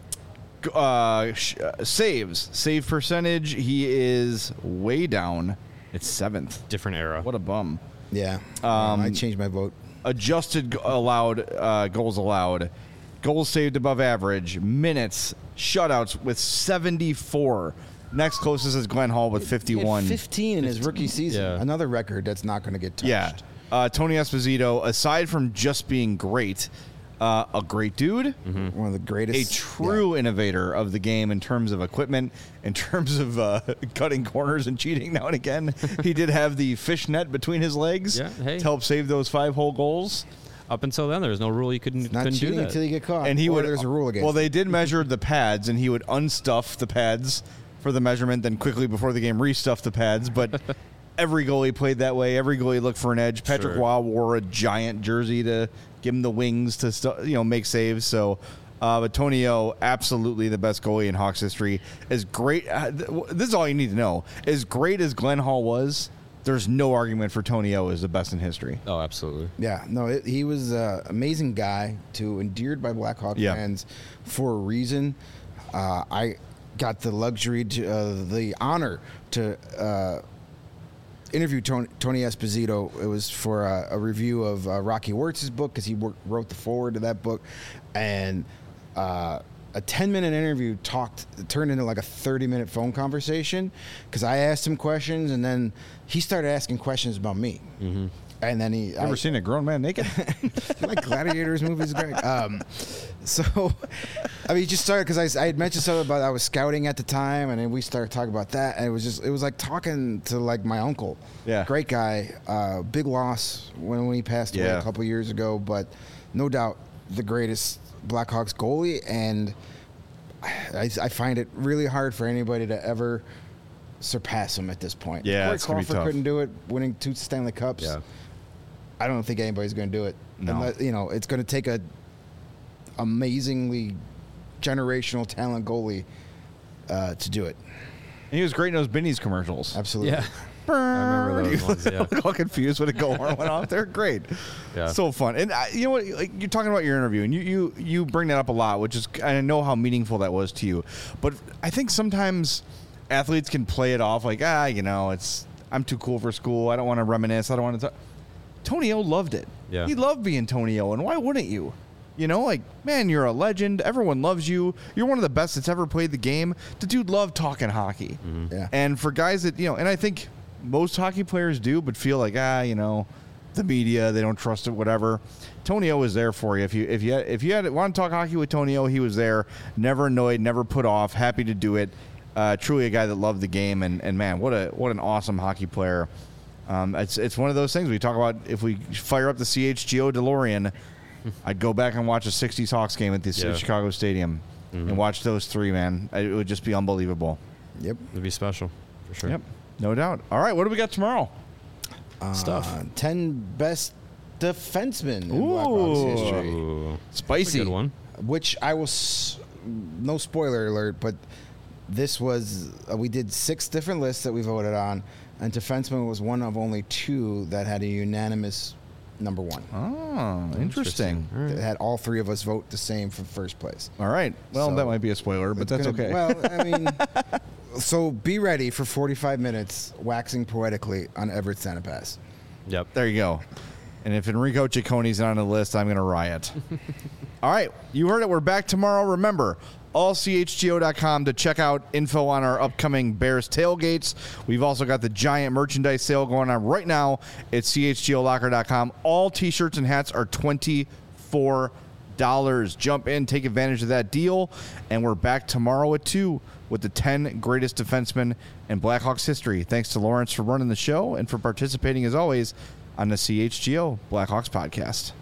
Saves. Save percentage, he is way down. It's 7th. Different era. What a bum. Yeah. I changed my vote. Adjusted goals allowed. Goals saved above average. Minutes. Shutouts with 74. Next closest is Glenn Hall with 51. 15 in his rookie season. Yeah. Another record that's not going to get touched. Yeah. Tony Esposito, aside from just being great, a great dude. One of the greatest. A true innovator of the game in terms of equipment, in terms of cutting corners and cheating now and again. He did have the fishnet between his legs to help save those 5-hole goals. Up until then, there was no rule you couldn't Not do cheating that. until you get caught. And there's a rule against Well, it. they did measure the pads, and he would unstuff the pads for the measurement, then quickly before the game restuff the pads. But Every goalie played that way. Every goalie looked for an edge. Patrick Sure. Waugh wore a giant jersey to give him the wings to make saves. So, but Tony O, absolutely the best goalie in Hawks history. As great, this is all you need to know. As great as Glenn Hall was, there's no argument for Tony O as the best in history. Oh, absolutely. Yeah, no, he was an amazing guy, too, endeared by Blackhawk fans for a reason. I got the luxury, the honor to interview Tony Esposito. It was for a review of Rocky Wirtz's book because he wrote the foreword to that book, and a 10-minute interview turned into like a 30-minute phone conversation because I asked him questions and then he started asking questions about me. Mm-hmm. And then Ever seen a grown man naked? like Gladiators movies, Greg. So, I mean, he just started because I had mentioned something about I was scouting at the time, and then we started talking about that, and it was like talking to like my uncle. Yeah, great guy. Big loss when he passed away a couple years ago, but no doubt the greatest Blackhawks goalie, and I find it really hard for anybody to ever surpass him at this point. Yeah, Corey Crawford couldn't do it, winning 2 Stanley Cups. Yeah. I don't think anybody's going to do it. No. Unless, it's going to take a amazingly generational talent goalie to do it. And he was great in those Benny's commercials. Absolutely. Yeah. I remember those ones, yeah. All confused when a goal horn went off. They're great. Yeah. So fun. And you know what? Like, you're talking about your interview, and you bring that up a lot, which is, I know how meaningful that was to you. But I think sometimes athletes can play it off like, I'm too cool for school. I don't want to reminisce. I don't want to talk. Tony O loved it. Yeah. He loved being Tony O, and why wouldn't you? Man, you're a legend. Everyone loves you. You're one of the best that's ever played the game. The dude loved talking hockey. Mm-hmm. Yeah. And for guys that, and I think most hockey players do, but feel like, the media, they don't trust it, whatever. Tony O was there for you. If you want to talk hockey with Tony O, he was there. Never annoyed, never put off, happy to do it. Truly a guy that loved the game, and man, what an awesome hockey player. It's one of those things we talk about. If we fire up the CHGO DeLorean, I'd go back and watch a 60s Hawks game at the Chicago Stadium and watch those three, man. It would just be unbelievable. Yep. It'd be special, for sure. Yep, no doubt. All right, what do we got tomorrow? Stuff. 10 best defensemen in Blackhawks history. Ooh. Spicy. That's a good one. Which I will, no spoiler alert, but this was, we did 6 different lists that we voted on, and defenseman was one of only 2 that had a unanimous number 1. Oh, interesting. All right. That had all 3 of us vote the same for first place. All right. Well, So, that might be a spoiler, but that's okay. Well, I mean, so be ready for 45 minutes waxing poetically on Everett Sanipass. Yep. There you go. And if Enrico Cicconi's not on the list, I'm going to riot. All right. You heard it. We're back tomorrow. Remember, allchgo.com to check out info on our upcoming Bears tailgates. We've also got the giant merchandise sale going on right now at chgolocker.com. All T-shirts and hats are $24. Jump in, take advantage of that deal. And we're back tomorrow at 2 with the 10 greatest defensemen in Blackhawks history. Thanks to Lawrence for running the show and for participating, as always, on the CHGO Blackhawks podcast.